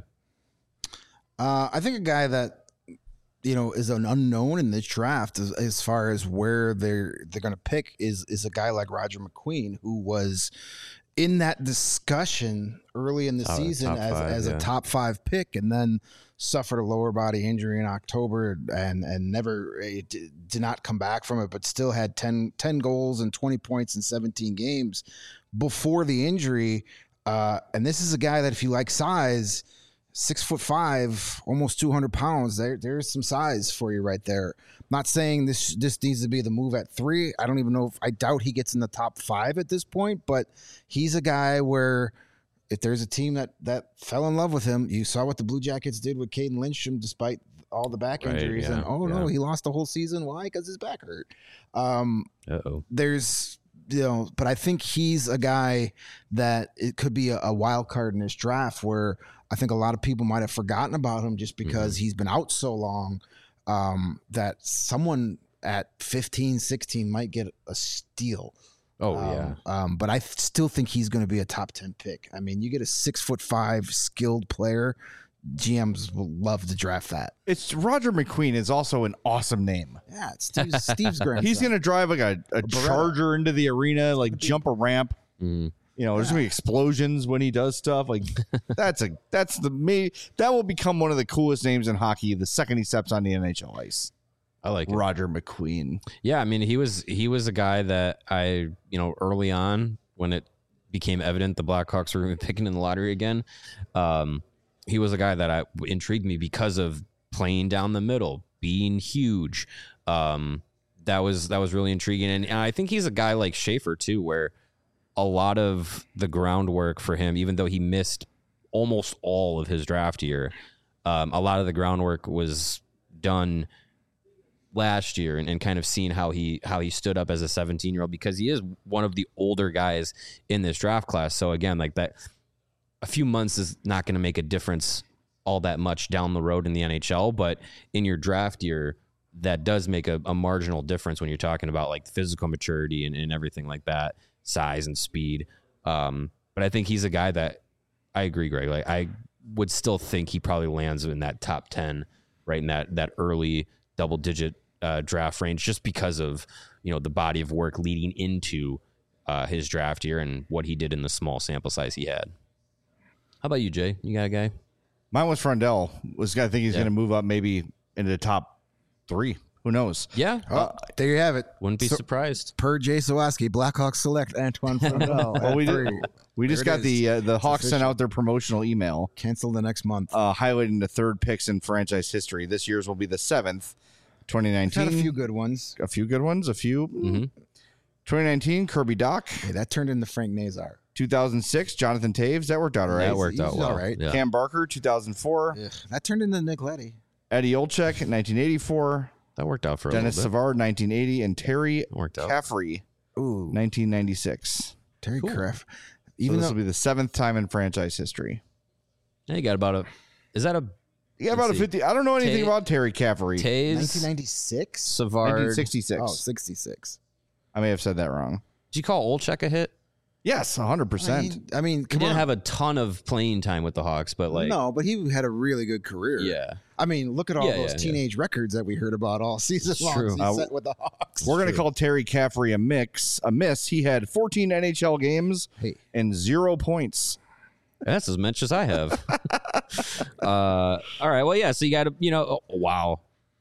Uh, I think a guy that, you know, is an unknown in this draft as, as far as where they're they're going to pick is is a guy like Roger McQueen, who was in that discussion early in the oh, season as, five, as yeah. a top five pick, and then suffered a lower body injury in October and and never uh, did not come back from it, but still had ten, ten goals and twenty points in seventeen games before the injury. Uh, and this is a guy that, if you like size, six foot five, almost two hundred pounds, there there's some size for you right there. I'm not saying this this needs to be the move at three. I don't even know if I doubt he gets in the top five at this point, but he's a guy where if there's a team that, that fell in love with him, you saw what the Blue Jackets did with Caden Lindstrom despite all the back right, injuries. Yeah, and, oh, yeah. no, he lost the whole season. Why? Because his back hurt. Um, Uh-oh. There's, you know, but I think he's a guy that it could be a, a wild card in this draft where I think a lot of people might have forgotten about him just because mm-hmm. he's been out so long um, that someone at fifteen, sixteen might get a steal. Oh, um, yeah. Um, but I th- still think he's going to be a top ten pick. I mean, you get a six foot five skilled player. G Ms will love to draft that. It's Roger McQueen is also an awesome name. Yeah, it's Steve's, Steve's grandson. He's going to drive like a, a, a charger into the arena, like jump a ramp. Mm. You know, there's yeah. gonna be explosions when he does stuff. Like that's a that's the me that will become one of the coolest names in hockey the second he steps on the N H L ice. I like it. Roger McQueen. Yeah, I mean he was he was a guy that I you know early on when it became evident the Blackhawks were going to be picking in the lottery again. Um, he was a guy that I intrigued me because of playing down the middle, being huge. Um, that was that was really intriguing, and, and I think he's a guy like Schaefer too, where a lot of the groundwork for him, even though he missed almost all of his draft year, um, a lot of the groundwork was done last year and, and kind of seeing how he how he stood up as a seventeen year old, because he is one of the older guys in this draft class. So again, like that, a few months is not going to make a difference all that much down the road in the N H L, but in your draft year, that does make a, a marginal difference when you're talking about like physical maturity and, and everything like that, size and speed. Um, but I think he's a guy that I agree, Greg. Like I would still think he probably lands in that top ten, right in that that early double digit uh, draft range, just because of you know the body of work leading into uh, his draft year and what he did in the small sample size he had. How about you, Jay? You got a guy? Mine was Frondell. Was I think he's yeah. going to move up maybe into the top three. Who knows? Yeah. Oh, there you have it. Wouldn't be So- surprised. Per Jay Sawaski, Blackhawks select Antoine Frontal. Well, we, did, we just There got it the uh, the Hawks sent official. out their promotional email Cancel the next month. uh, highlighting the third picks in franchise history. This year's will be the seventh, twenty nineteen. Had a few good ones. A few good ones. A few. Mhm. twenty nineteen, Kirby Doc. Hey, that turned into Frank Nazar. two thousand six, Jonathan Taves. That worked out all right. That worked He's out well. all right. Yeah. Cam Barker, two thousand four. Ugh, that turned into Nick Leddy. Eddie Olczyk, nineteen eighty-four. That worked out for a Dennis little bit. Savard, nineteen eighty. And Terry Worked out. Caffrey, Ooh, nineteen ninety-six. Terry Cool. Kraft. So Even this though will be the seventh time in franchise history. Yeah, you got about a. Is that a Yeah, about Let's a see. fifty. I don't know anything Ta- about Terry Caffrey. Taze, nineteen ninety-six? Savard? nineteen sixty-six. Oh, sixty-six. I may have said that wrong. Did you call Olczyk a hit? Yes, one hundred I percent. mean, I mean He come didn't on. have a ton of playing time with the Hawks, but like, no, but he had a really good career. yeah, I mean, look at all Yeah, those yeah, yeah. teenage records that we heard about all season It's long. true. He Uh, set with the Hawks. We're going to call Terry Caffrey a mix, a miss. He had fourteen N H L games Hey, and zero points. that's as much as I have. uh, all right, well, yeah. So you got to, you know, oh, wow.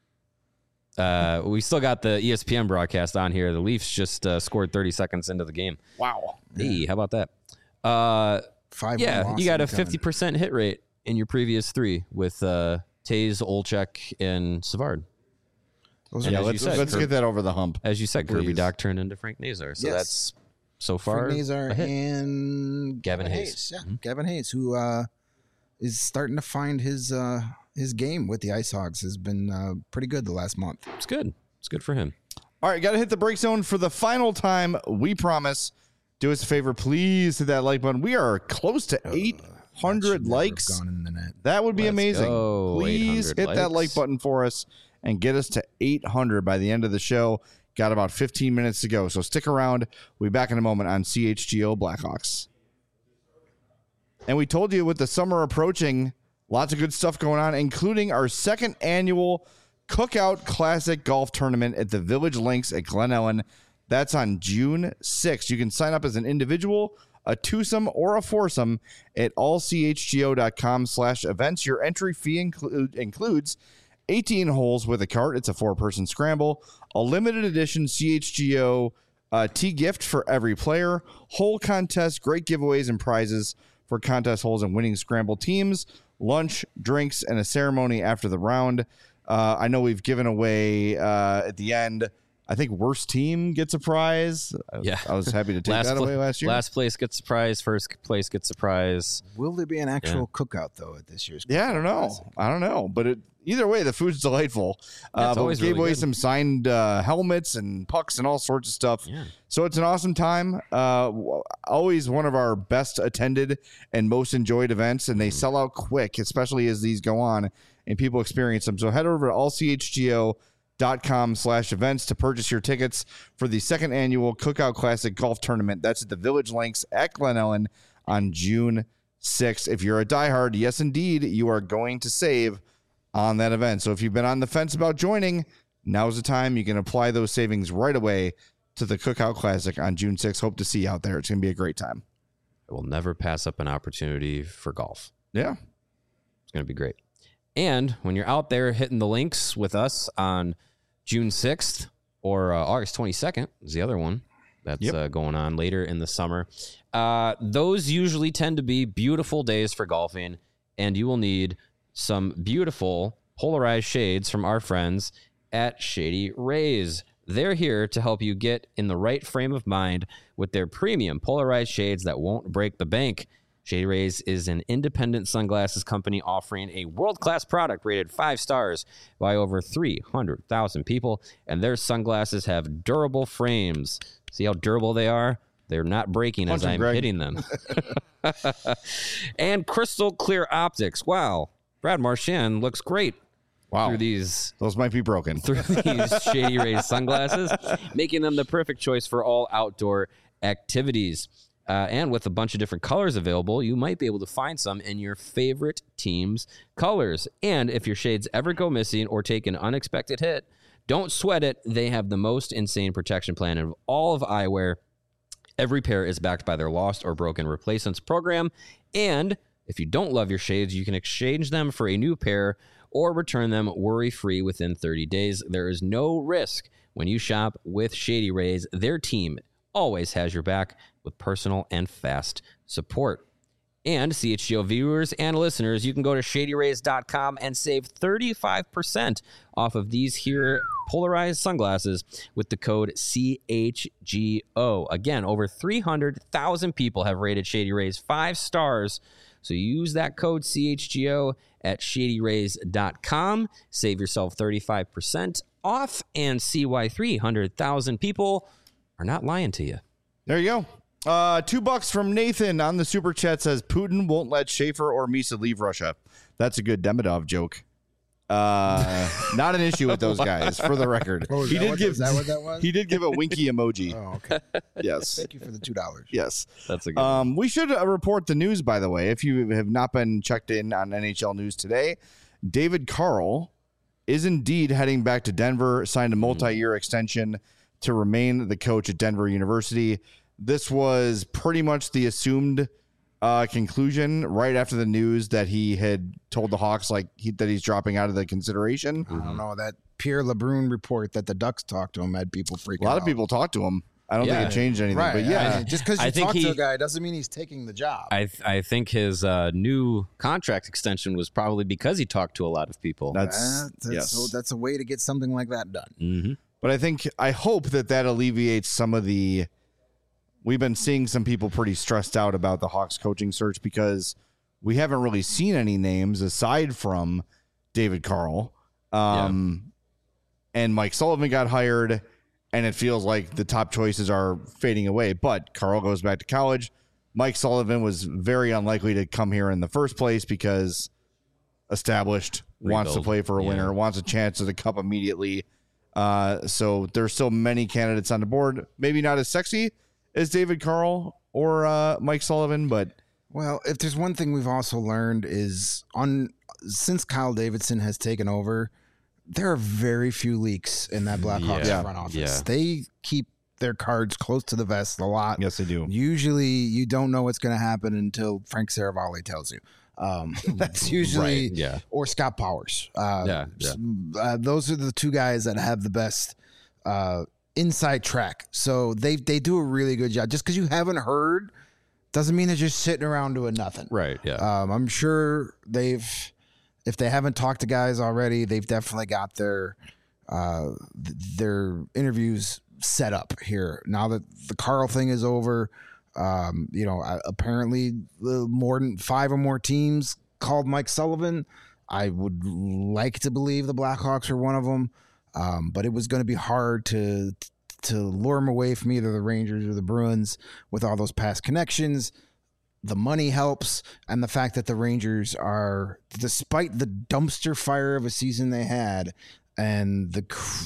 Uh, we still got the E S P N broadcast on here. The Leafs just uh, scored thirty seconds into the game. Wow. Hey, how about that? Uh, five. yeah, you got a fifty fifty. percent hit rate in your previous three with uh, Taze, Olczyk, and Savard. Those And Yeah, as let's, you said, let's Kirby- get that over the hump. As you said, Kirby Please. Doc turned into Frank Nazar. So Yes. that's so far Frank Nazar a hit. and Gavin Hayes. Yeah, Mhm. Gavin Hayes, who uh, is starting to find his uh, his game with the Ice Hogs, has been uh, pretty good the last month. It's good. It's good for him. All right, got to hit the break zone for the final time. We promise. Do us a favor, please hit that like button. We are close to eight hundred Should never have likes. gone in the net. That would be Let's amazing. go. Please eight hit hundred that like likes. button for us and get us to eight hundred by the end of the show. Got about fifteen minutes to go, so stick around. We'll be back in a moment on C H G O Blackhawks. And we told you with the summer approaching, lots of good stuff going on, including our second annual Cookout Classic Golf Tournament at the Village Links at Glen Ellen. That's on June sixth. You can sign up as an individual, a twosome, or a foursome at allchgo.com slash events. Your entry fee include, includes eighteen holes with a cart. It's a four-person scramble, a limited edition C H G O uh, tee gift for every player, hole contest, great giveaways and prizes for contest holes and winning scramble teams, lunch, drinks, and a ceremony after the round. Uh, I know we've given away uh, at the end, I think worst team gets a prize. I was, Yeah. I was happy to take last that pla- away last year. Last place gets a prize. First place gets a prize. Will there be an actual cookout though at this year's? Yeah, I Cookout don't know. Classic? I don't know, but it, either way, the food's delightful. Yeah, uh, it's but we always gave really away good. some signed uh, helmets and pucks and all sorts of stuff. Yeah. So it's an awesome time. Uh, w- always one of our best attended and most enjoyed events, and they Mm-hmm. sell out quick, especially as these go on and people experience them. So head over to all c h g o dot com slash events to purchase your tickets for the second annual Cookout Classic Golf Tournament. That's at the Village Links at Glen Ellen on June sixth. If you're a diehard, yes, indeed, you are going to save on that event. So if you've been on the fence about joining, now's the time. You can apply those savings right away to the Cookout Classic on June sixth. Hope to see you out there. It's going to be a great time. I will never pass up an opportunity for golf. Yeah. It's going to be great. And when you're out there hitting the links with us on June sixth or uh, August twenty-second is the other one that's Yep. uh, going on later in the summer. Uh, those usually tend to be beautiful days for golfing, and you will need some beautiful polarized shades from our friends at Shady Rays. They're here to help you get in the right frame of mind with their premium polarized shades that won't break the bank. Shady Rays is an independent sunglasses company offering a world-class product rated five stars by over three hundred thousand people, and their sunglasses have durable frames. See how durable they are? They're not breaking Punch as 'em, I'm Greg. hitting them. And crystal clear optics. Wow. Brad Marchand looks great Wow. through these Those might be broken. through these Shady Rays sunglasses, making them the perfect choice for all outdoor activities. Uh, and with a bunch of different colors available, you might be able to find some in your favorite team's colors. And if your shades ever go missing or take an unexpected hit, don't sweat it. They have the most insane protection plan of all of eyewear. Every pair is backed by their lost or broken replacements program. And if you don't love your shades, you can exchange them for a new pair or return them worry-free within thirty days. There is no risk when you shop with Shady Rays. Their team always has your back with personal and fast support. And C H G O viewers and listeners, you can go to shady rays dot com and save thirty-five percent off of these here polarized sunglasses with the code C H G O. Again, over three hundred thousand people have rated Shady Rays five stars. So use that code C H G O at shady rays dot com. Save yourself thirty-five percent off and see why three hundred thousand people are not lying to you. There you go. Uh, two bucks from Nathan on the super chat says Putin won't let Schaefer or Misa leave Russia. That's a good Demidov joke. Uh, not an issue with those guys, for the record. Oh, he did what, give is that what that was? He did give a winky emoji. Oh, okay. Yes. Thank you for the two dollars. Yes. That's a good Um, we should uh, report the news, by the way. If you have not been checked in on N H L news today, David Carl is indeed heading back to Denver, signed a multi-year extension to remain the coach at Denver University. This was pretty much the assumed uh, conclusion right after the news that he had told the Hawks like he, that he's dropping out of the consideration. I don't know. That Pierre LeBrun report that the Ducks talked to him had people freaking out. A lot of people talked to him. I don't Yeah. think it changed anything, Right. but yeah. I mean, just because I you think talk he- to a guy doesn't mean he's taking the job. I th- I think his uh, new contract extension was probably because he talked to a lot of people. That's, That- that's, yes. so that's a way to get something like that done. Mm-hmm. But I think, I hope that that alleviates some of the, we've been seeing some people pretty stressed out about the Hawks coaching search because we haven't really seen any names aside from David Carl. Um, and Mike Sullivan got hired, and it feels like the top choices are fading away. But Carl goes back to college. Mike Sullivan was very unlikely to come here in the first place because established, wants to Rebuild. play for a Yeah. winner, wants a chance at the cup immediately. Uh, so there's still many candidates on the board. Maybe not as sexy as David Carl or uh, Mike Sullivan, but Well, if there's one thing we've also learned is on since Kyle Davidson has taken over, there are very few leaks in that Blackhawks Yeah. front office. Yeah. They keep their cards close to the vest a lot. yes, they do. Usually, you don't know what's going to happen until Frank Saravalli tells you. Um, that's usually Right, yeah. or Scott Powers. Uh, Yeah, yeah. Uh, those are the two guys that have the best uh, inside track. So they they do a really good job. Just because you haven't heard doesn't mean they're just sitting around doing nothing. Right. Yeah. Um, I'm sure they've, if they haven't talked to guys already, they've definitely got their uh, th- their interviews set up here. Now that the Carl thing is over, um, you know, uh, apparently uh, more than five or more teams called Mike Sullivan. I would like to believe the Blackhawks are one of them, um, but it was going to be hard to to lure him away from either the Rangers or the Bruins with all those past connections. The money helps, and the fact that the Rangers are, despite the dumpster fire of a season they had and the cr-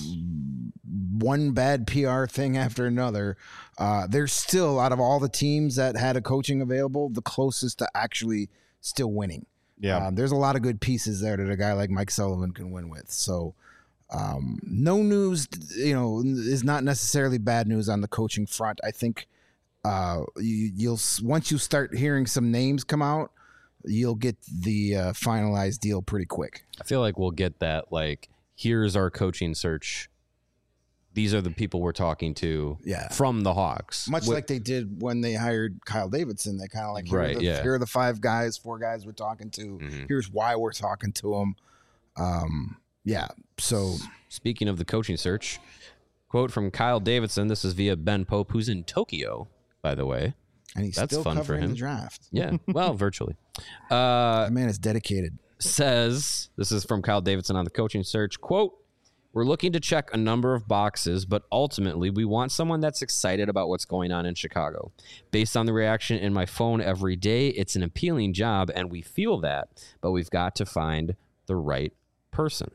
one bad P R thing after another, uh, they're still, out of all the teams that had a coaching available, the closest to actually still winning. Yeah. Um, there's a lot of good pieces there that a guy like Mike Sullivan can win with. So um, no news, you know, is not necessarily bad news on the coaching front. I think uh, you, you'll once you start hearing some names come out, you'll get the uh, finalized deal pretty quick. I feel like we'll get that. Like, here's our coaching search. These are the people we're talking to. Yeah. From the Hawks. Much Wh- like they did when they hired Kyle Davidson. They kind of like, here, Right, are the, yeah. here are the five guys, four guys we're talking to. Mhm. Here's why we're talking to them. Um, yeah. So Speaking of the coaching search, quote from Kyle Davidson. This is via Ben Pope, who's in Tokyo, by the way. and he's That's still fun for covering him. the draft. Yeah. Well, virtually. Uh, That man is dedicated. says, this is from Kyle Davidson on the coaching search, quote, we're looking to check a number of boxes, but ultimately we want someone that's excited about what's going on in Chicago. Based on the reaction in my phone every day, it's an appealing job, and we feel that, but we've got to find the right person.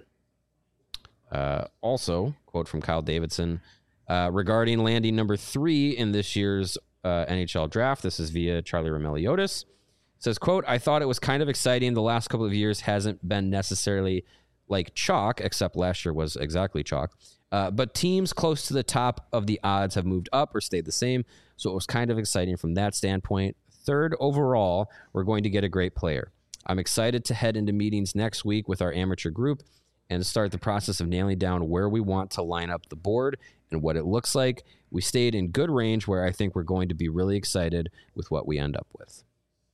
Uh, also, quote from Kyle Davidson, uh, regarding landing number three in this year's uh, N H L draft, this is via Charlie Romeliotis. Says, quote, I thought it was kind of exciting. The last couple of years hasn't been necessarily like chalk, except last year was exactly chalk. Uh, but teams close to the top of the odds have moved up or stayed the same. So it was kind of exciting from that standpoint. Third overall, we're going to get a great player. I'm excited to head into meetings next week with our amateur group and start the process of nailing down where we want to line up the board and what it looks like. We stayed in good range where I think we're going to be really excited with what we end up with.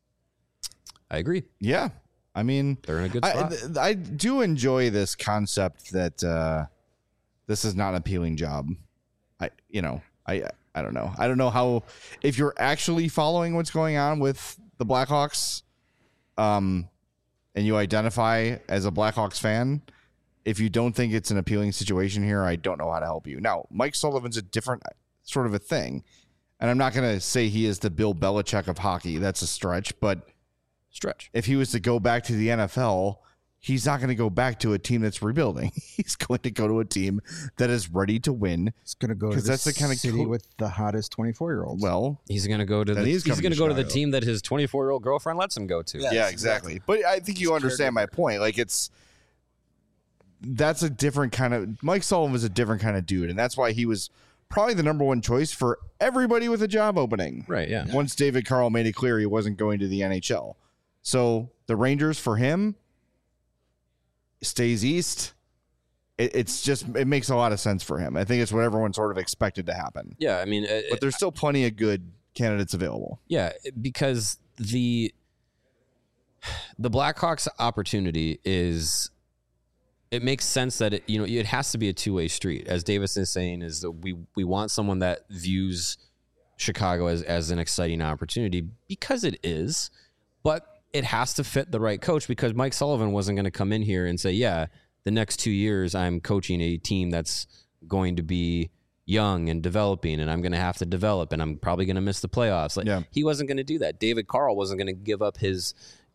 I agree. Yeah. I mean, they're in a good spot. I, I do enjoy this concept that uh, this is not an appealing job. I, you know, I, I don't know. I don't know how, if you're actually following what's going on with the Blackhawks, um, and you identify as a Blackhawks fan, if you don't think it's an appealing situation here, I don't know how to help you. Now, Mike Sullivan's a different sort of a thing, and I'm not going to say he is the Bill Belichick of hockey. That's a stretch, but stretch. If he was to go back to the N F L, he's not going to go back to a team that's rebuilding. He's going to go to a team that is ready to win. He's going to go to that's the, the kind of city co- with the hottest twenty-four year olds. Well, he's going to go to the he's, he's going to go to the team that his twenty-four year old girlfriend lets him go to. Yeah, yeah exactly. exactly. But I think you understand my point. Like it's that's a different kind of Mike Sullivan was a different kind of dude, and that's why he was probably the number one choice for everybody with a job opening. Right. Yeah. Once David Carl made it clear he wasn't going to the N H L. So the Rangers for him stays east. It, it's just it makes a lot of sense for him. I think it's what everyone sort of expected to happen. Yeah, I mean, uh, but there's still plenty of good candidates available. Yeah, because the the Blackhawks opportunity is it makes sense that it you know it has to be a two way street. As Davis is saying, is that we we want someone that views Chicago as as an exciting opportunity because it is, but it has to fit the right coach because Mike Sullivan wasn't going to come in here and say, yeah, the next two years I'm coaching a team that's going to be young and developing and I'm going to have to develop and I'm probably going to miss the playoffs. Like yeah. He wasn't going to do that. David Carl wasn't going to give up his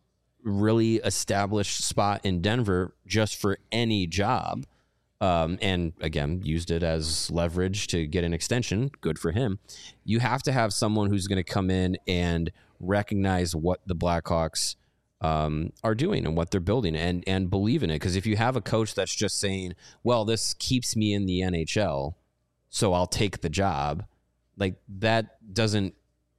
really established spot in Denver just for any job. Um, and again, used it as leverage to get an extension. Good for him. You have to have someone who's going to come in and recognize what the Blackhawks um, are doing and what they're building and, and believe in it. Because if you have a coach that's just saying, well, this keeps me in the N H L, so I'll take the job, like that doesn't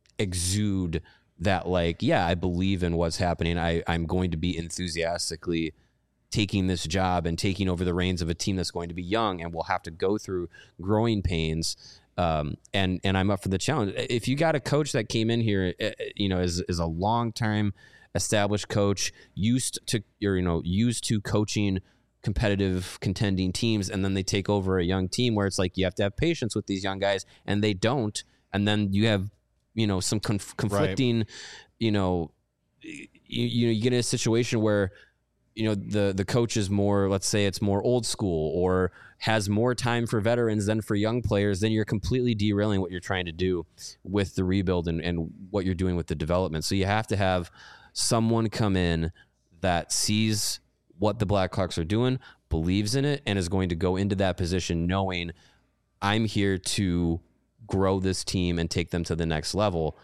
exude that like, yeah, I believe in what's happening. I, I'm going to be enthusiastically taking this job and taking over the reins of a team that's going to be young and will have to go through growing pains. Um, and, and I'm up for the challenge. If you got a coach that came in here, you know, is, is a long time established coach used to, or, you know, used to coaching competitive contending teams. And then they take over a young team where it's like, you have to have patience with these young guys and they don't. And then you have, you know, some conf- conflicting, right. you know, you, you know, you get in a situation where, you know, the, the coach is more, let's say it's more old school or has more time for veterans than for young players, then you're completely derailing what you're trying to do with the rebuild and, and what you're doing with the development. So you have to have someone come in that sees what the Blackhawks are doing, believes in it, and is going to go into that position knowing I'm here to grow this team and take them to the next level.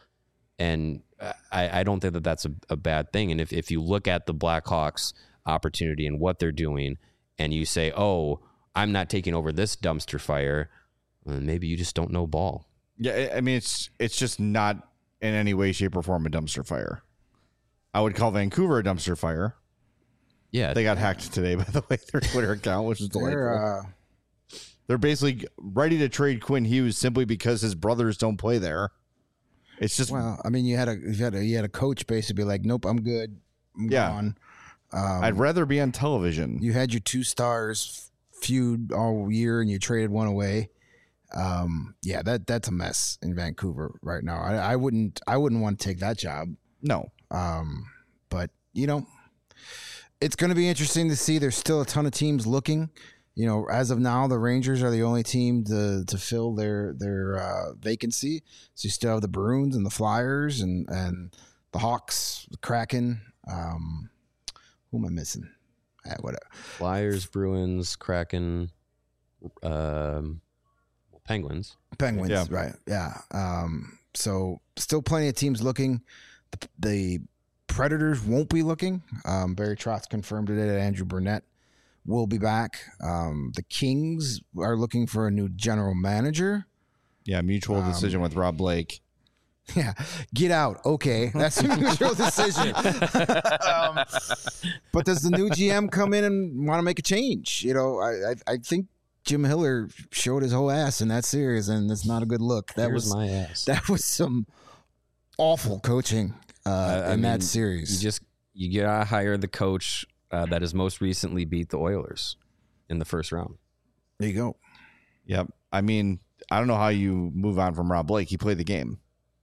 And I, I don't think that that's a, a bad thing. And if, if you look at the Blackhawks opportunity and what they're doing and you say, oh, I'm not taking over this dumpster fire, well, maybe you just don't know ball. Yeah, I mean, it's it's just not in any way, shape, or form a dumpster fire. I would call Vancouver a dumpster fire. Yeah. They got hacked today, by the way, their Twitter account, which is delightful. They're, uh... They're basically ready to trade Quinn Hughes simply because his brothers don't play there. It's just... Well, I mean, you had a you had a, you had a coach basically be like, nope, I'm good. I'm yeah. gone. Um, I'd rather be on television. You had your two stars feud all year, and you traded one away. Um, yeah, that that's a mess in Vancouver right now. I, I wouldn't I wouldn't want to take that job. No. Um, but you know, it's going to be interesting to see. There's still a ton of teams looking. You know, as of now, the Rangers are the only team to to fill their their uh, vacancy. So you still have the Bruins and the Flyers and and the Hawks, the Kraken. Um, who am I missing? Ah, whatever. Flyers, Bruins, Kraken, um, Penguins. Penguins, yeah. right? Yeah. Um, so still plenty of teams looking. The, the Predators won't be looking. Um, Barry Trotz confirmed today that Andrew Burnett will be back. Um, the Kings are looking for a new general manager. Yeah, mutual decision um, with Rob Blake. Yeah, get out. Okay, that's a mutual decision. um, but does the new G M come in and want to make a change? You know, I, I I think Jim Hiller showed his whole ass in that series, and that's not a good look. That Here's was my ass. That was some awful coaching uh, Uh, I in mean, that series. You just you gotta hire the coach uh, that has most recently beat the Oilers in the first round. There you go. Yep. I mean, I don't know how you move on from Rob Blake. He played the game.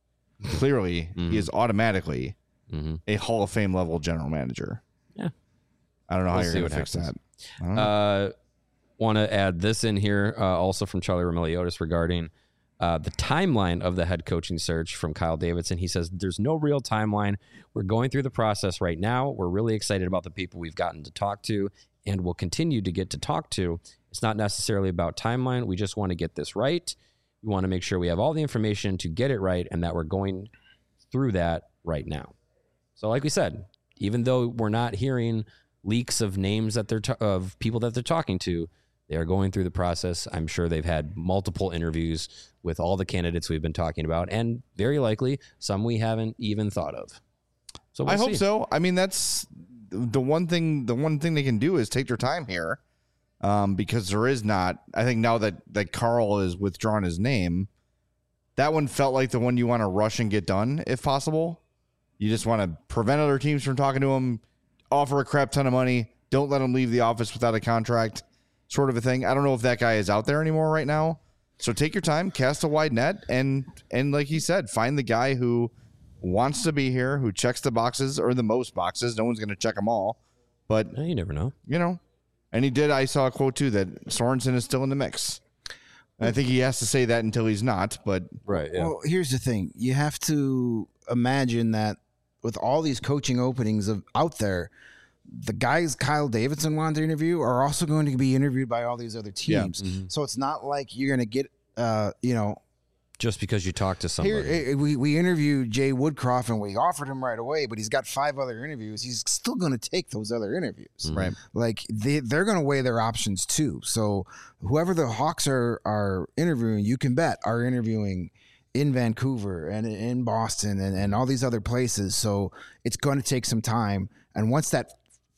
Clearly, Mhm. he is automatically Mm-hmm. a Hall of Fame level general manager. Yeah. I don't know We'll how you're see going to what fix happens. that. I don't know. Uh, want to add this in here uh, also from Charlie Romiliotis regarding uh, the timeline of the head coaching search from Kyle Davidson. He says, there's no real timeline. We're going through the process right now. We're really excited about the people we've gotten to talk to and will continue to get to talk to. It's not necessarily about timeline. We just want to get this right. We want to make sure we have all the information to get it right and that we're going through that right now. So like we said, even though we're not hearing leaks of names that they're, ta- of people that they're talking to, they are going through the process. I'm sure they've had multiple interviews with all the candidates we've been talking about, and very likely some we haven't even thought of. So we'll I hope see. so. I mean, that's the one thing. The one thing they can do is take their time here, um, because there is not. I think now that that Carl has withdrawn his name, that one felt like the one you want to rush and get done if possible. You just want to prevent other teams from talking to him, offer a crap ton of money, don't let him leave the office without a contract, sort of a thing. I don't know if that guy is out there anymore right now. So take your time, cast a wide net, and and like he said, find the guy who wants to be here, who checks the boxes or the most boxes. No one's going to check them all, but Eh, you never know. you know, and he did. I saw a quote too that Sorensen is still in the mix. And I think he has to say that until he's not. But Right. Yeah. Well, here's the thing. You have to imagine that with all these coaching openings of out there, the guys Kyle Davidson wanted to interview are also going to be interviewed by all these other Yeah. teams. Mhm. So it's not like you're going to get, uh, you know, Just because you talk to somebody. here, eh, we, we interviewed Jay Woodcroft and we offered him right away, but he's got five other interviews. He's still going to take those other interviews. Mhm. right. Like they, they're going to weigh their options too. So whoever the Hawks are, are interviewing, you can bet are interviewing in Vancouver and in Boston and, and all these other places. So it's going to take some time. And once that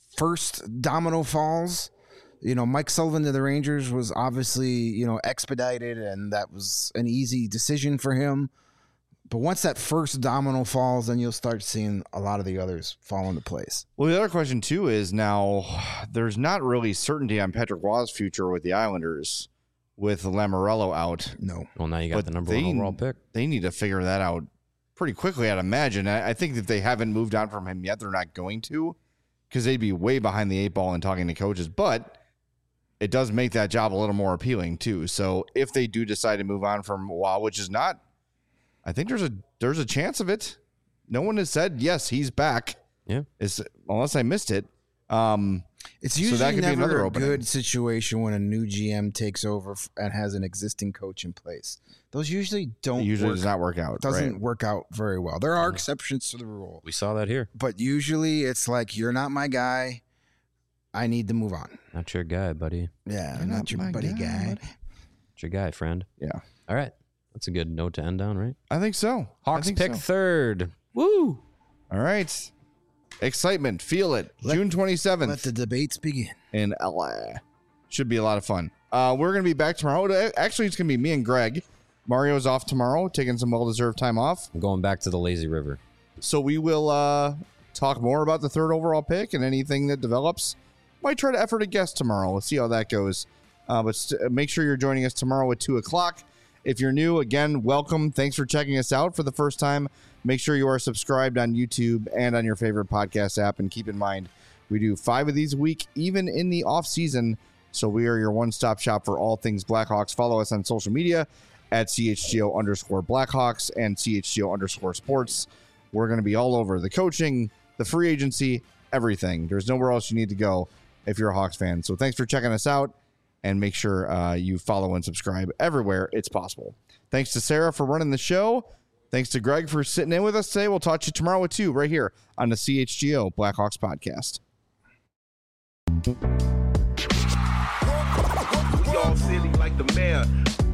first domino falls, you know, Mike Sullivan to the Rangers was obviously, you know, expedited and that was an easy decision for him. But once that first domino falls, then you'll start seeing a lot of the others fall into place. Well, the other question too is now there's not really certainty on Patrick Waugh's future with the Islanders with Lamoriello out. No. Well, now you got But the number they- one overall pick. They need to figure that out pretty quickly, I'd imagine. I, I think that they haven't moved on from him yet. They're not going to, because they'd be way behind the eight ball in talking to coaches. But it does make that job a little more appealing too. So if they do decide to move on from Waugh, which is not, I think there's a there's a chance of it. No one has said yes, he's back. Yeah. Is unless I missed it. Um, It's So usually that could be never another a opening. good situation when a new G M takes over f- and has an existing coach in place. Those usually don't it usually work, does not work out. doesn't right? work out very well. There are exceptions to the rule, We saw that here. but usually it's like you're not my guy. I need to move on. Not your guy, buddy. Yeah, You're not, not your my buddy guy, guy. buddy. Not your guy, friend. Yeah, All right. That's a good note to end on, right? I think so. I Hawks think pick so. third. Woo! All right. Excitement. Feel it. Let- June Let twenty-seventh the debates begin. in L A. Should be a lot of fun. Uh, we're going to be back tomorrow. Actually, it's going to be me and Greg. Mario's off tomorrow, taking some well-deserved time off. I'm going back to the lazy river. So we will uh, talk more about the third overall pick and anything that develops. Might try to effort a guest tomorrow. We'll see how that goes. Uh, but st- make sure you're joining us tomorrow at two o'clock. If you're new, again, welcome. Thanks for checking us out for the first time. Make sure you are subscribed on YouTube and on your favorite podcast app. And keep in mind, we do five of these a week, even in the off season. So we are your one-stop shop for all things Blackhawks. Follow us on social media at C H G O underscore Blackhawks and C H G O underscore sports. We're going to be all over the coaching, the free agency, everything. There's nowhere else you need to go if you're a Hawks fan. So thanks for checking us out, and make sure uh, you follow and subscribe everywhere it's possible. Thanks to Sarah for running the show. Thanks to Greg for sitting in with us today. We'll talk to you tomorrow at two right here on the C H G O Blackhawks podcast. We all silly like the mayor.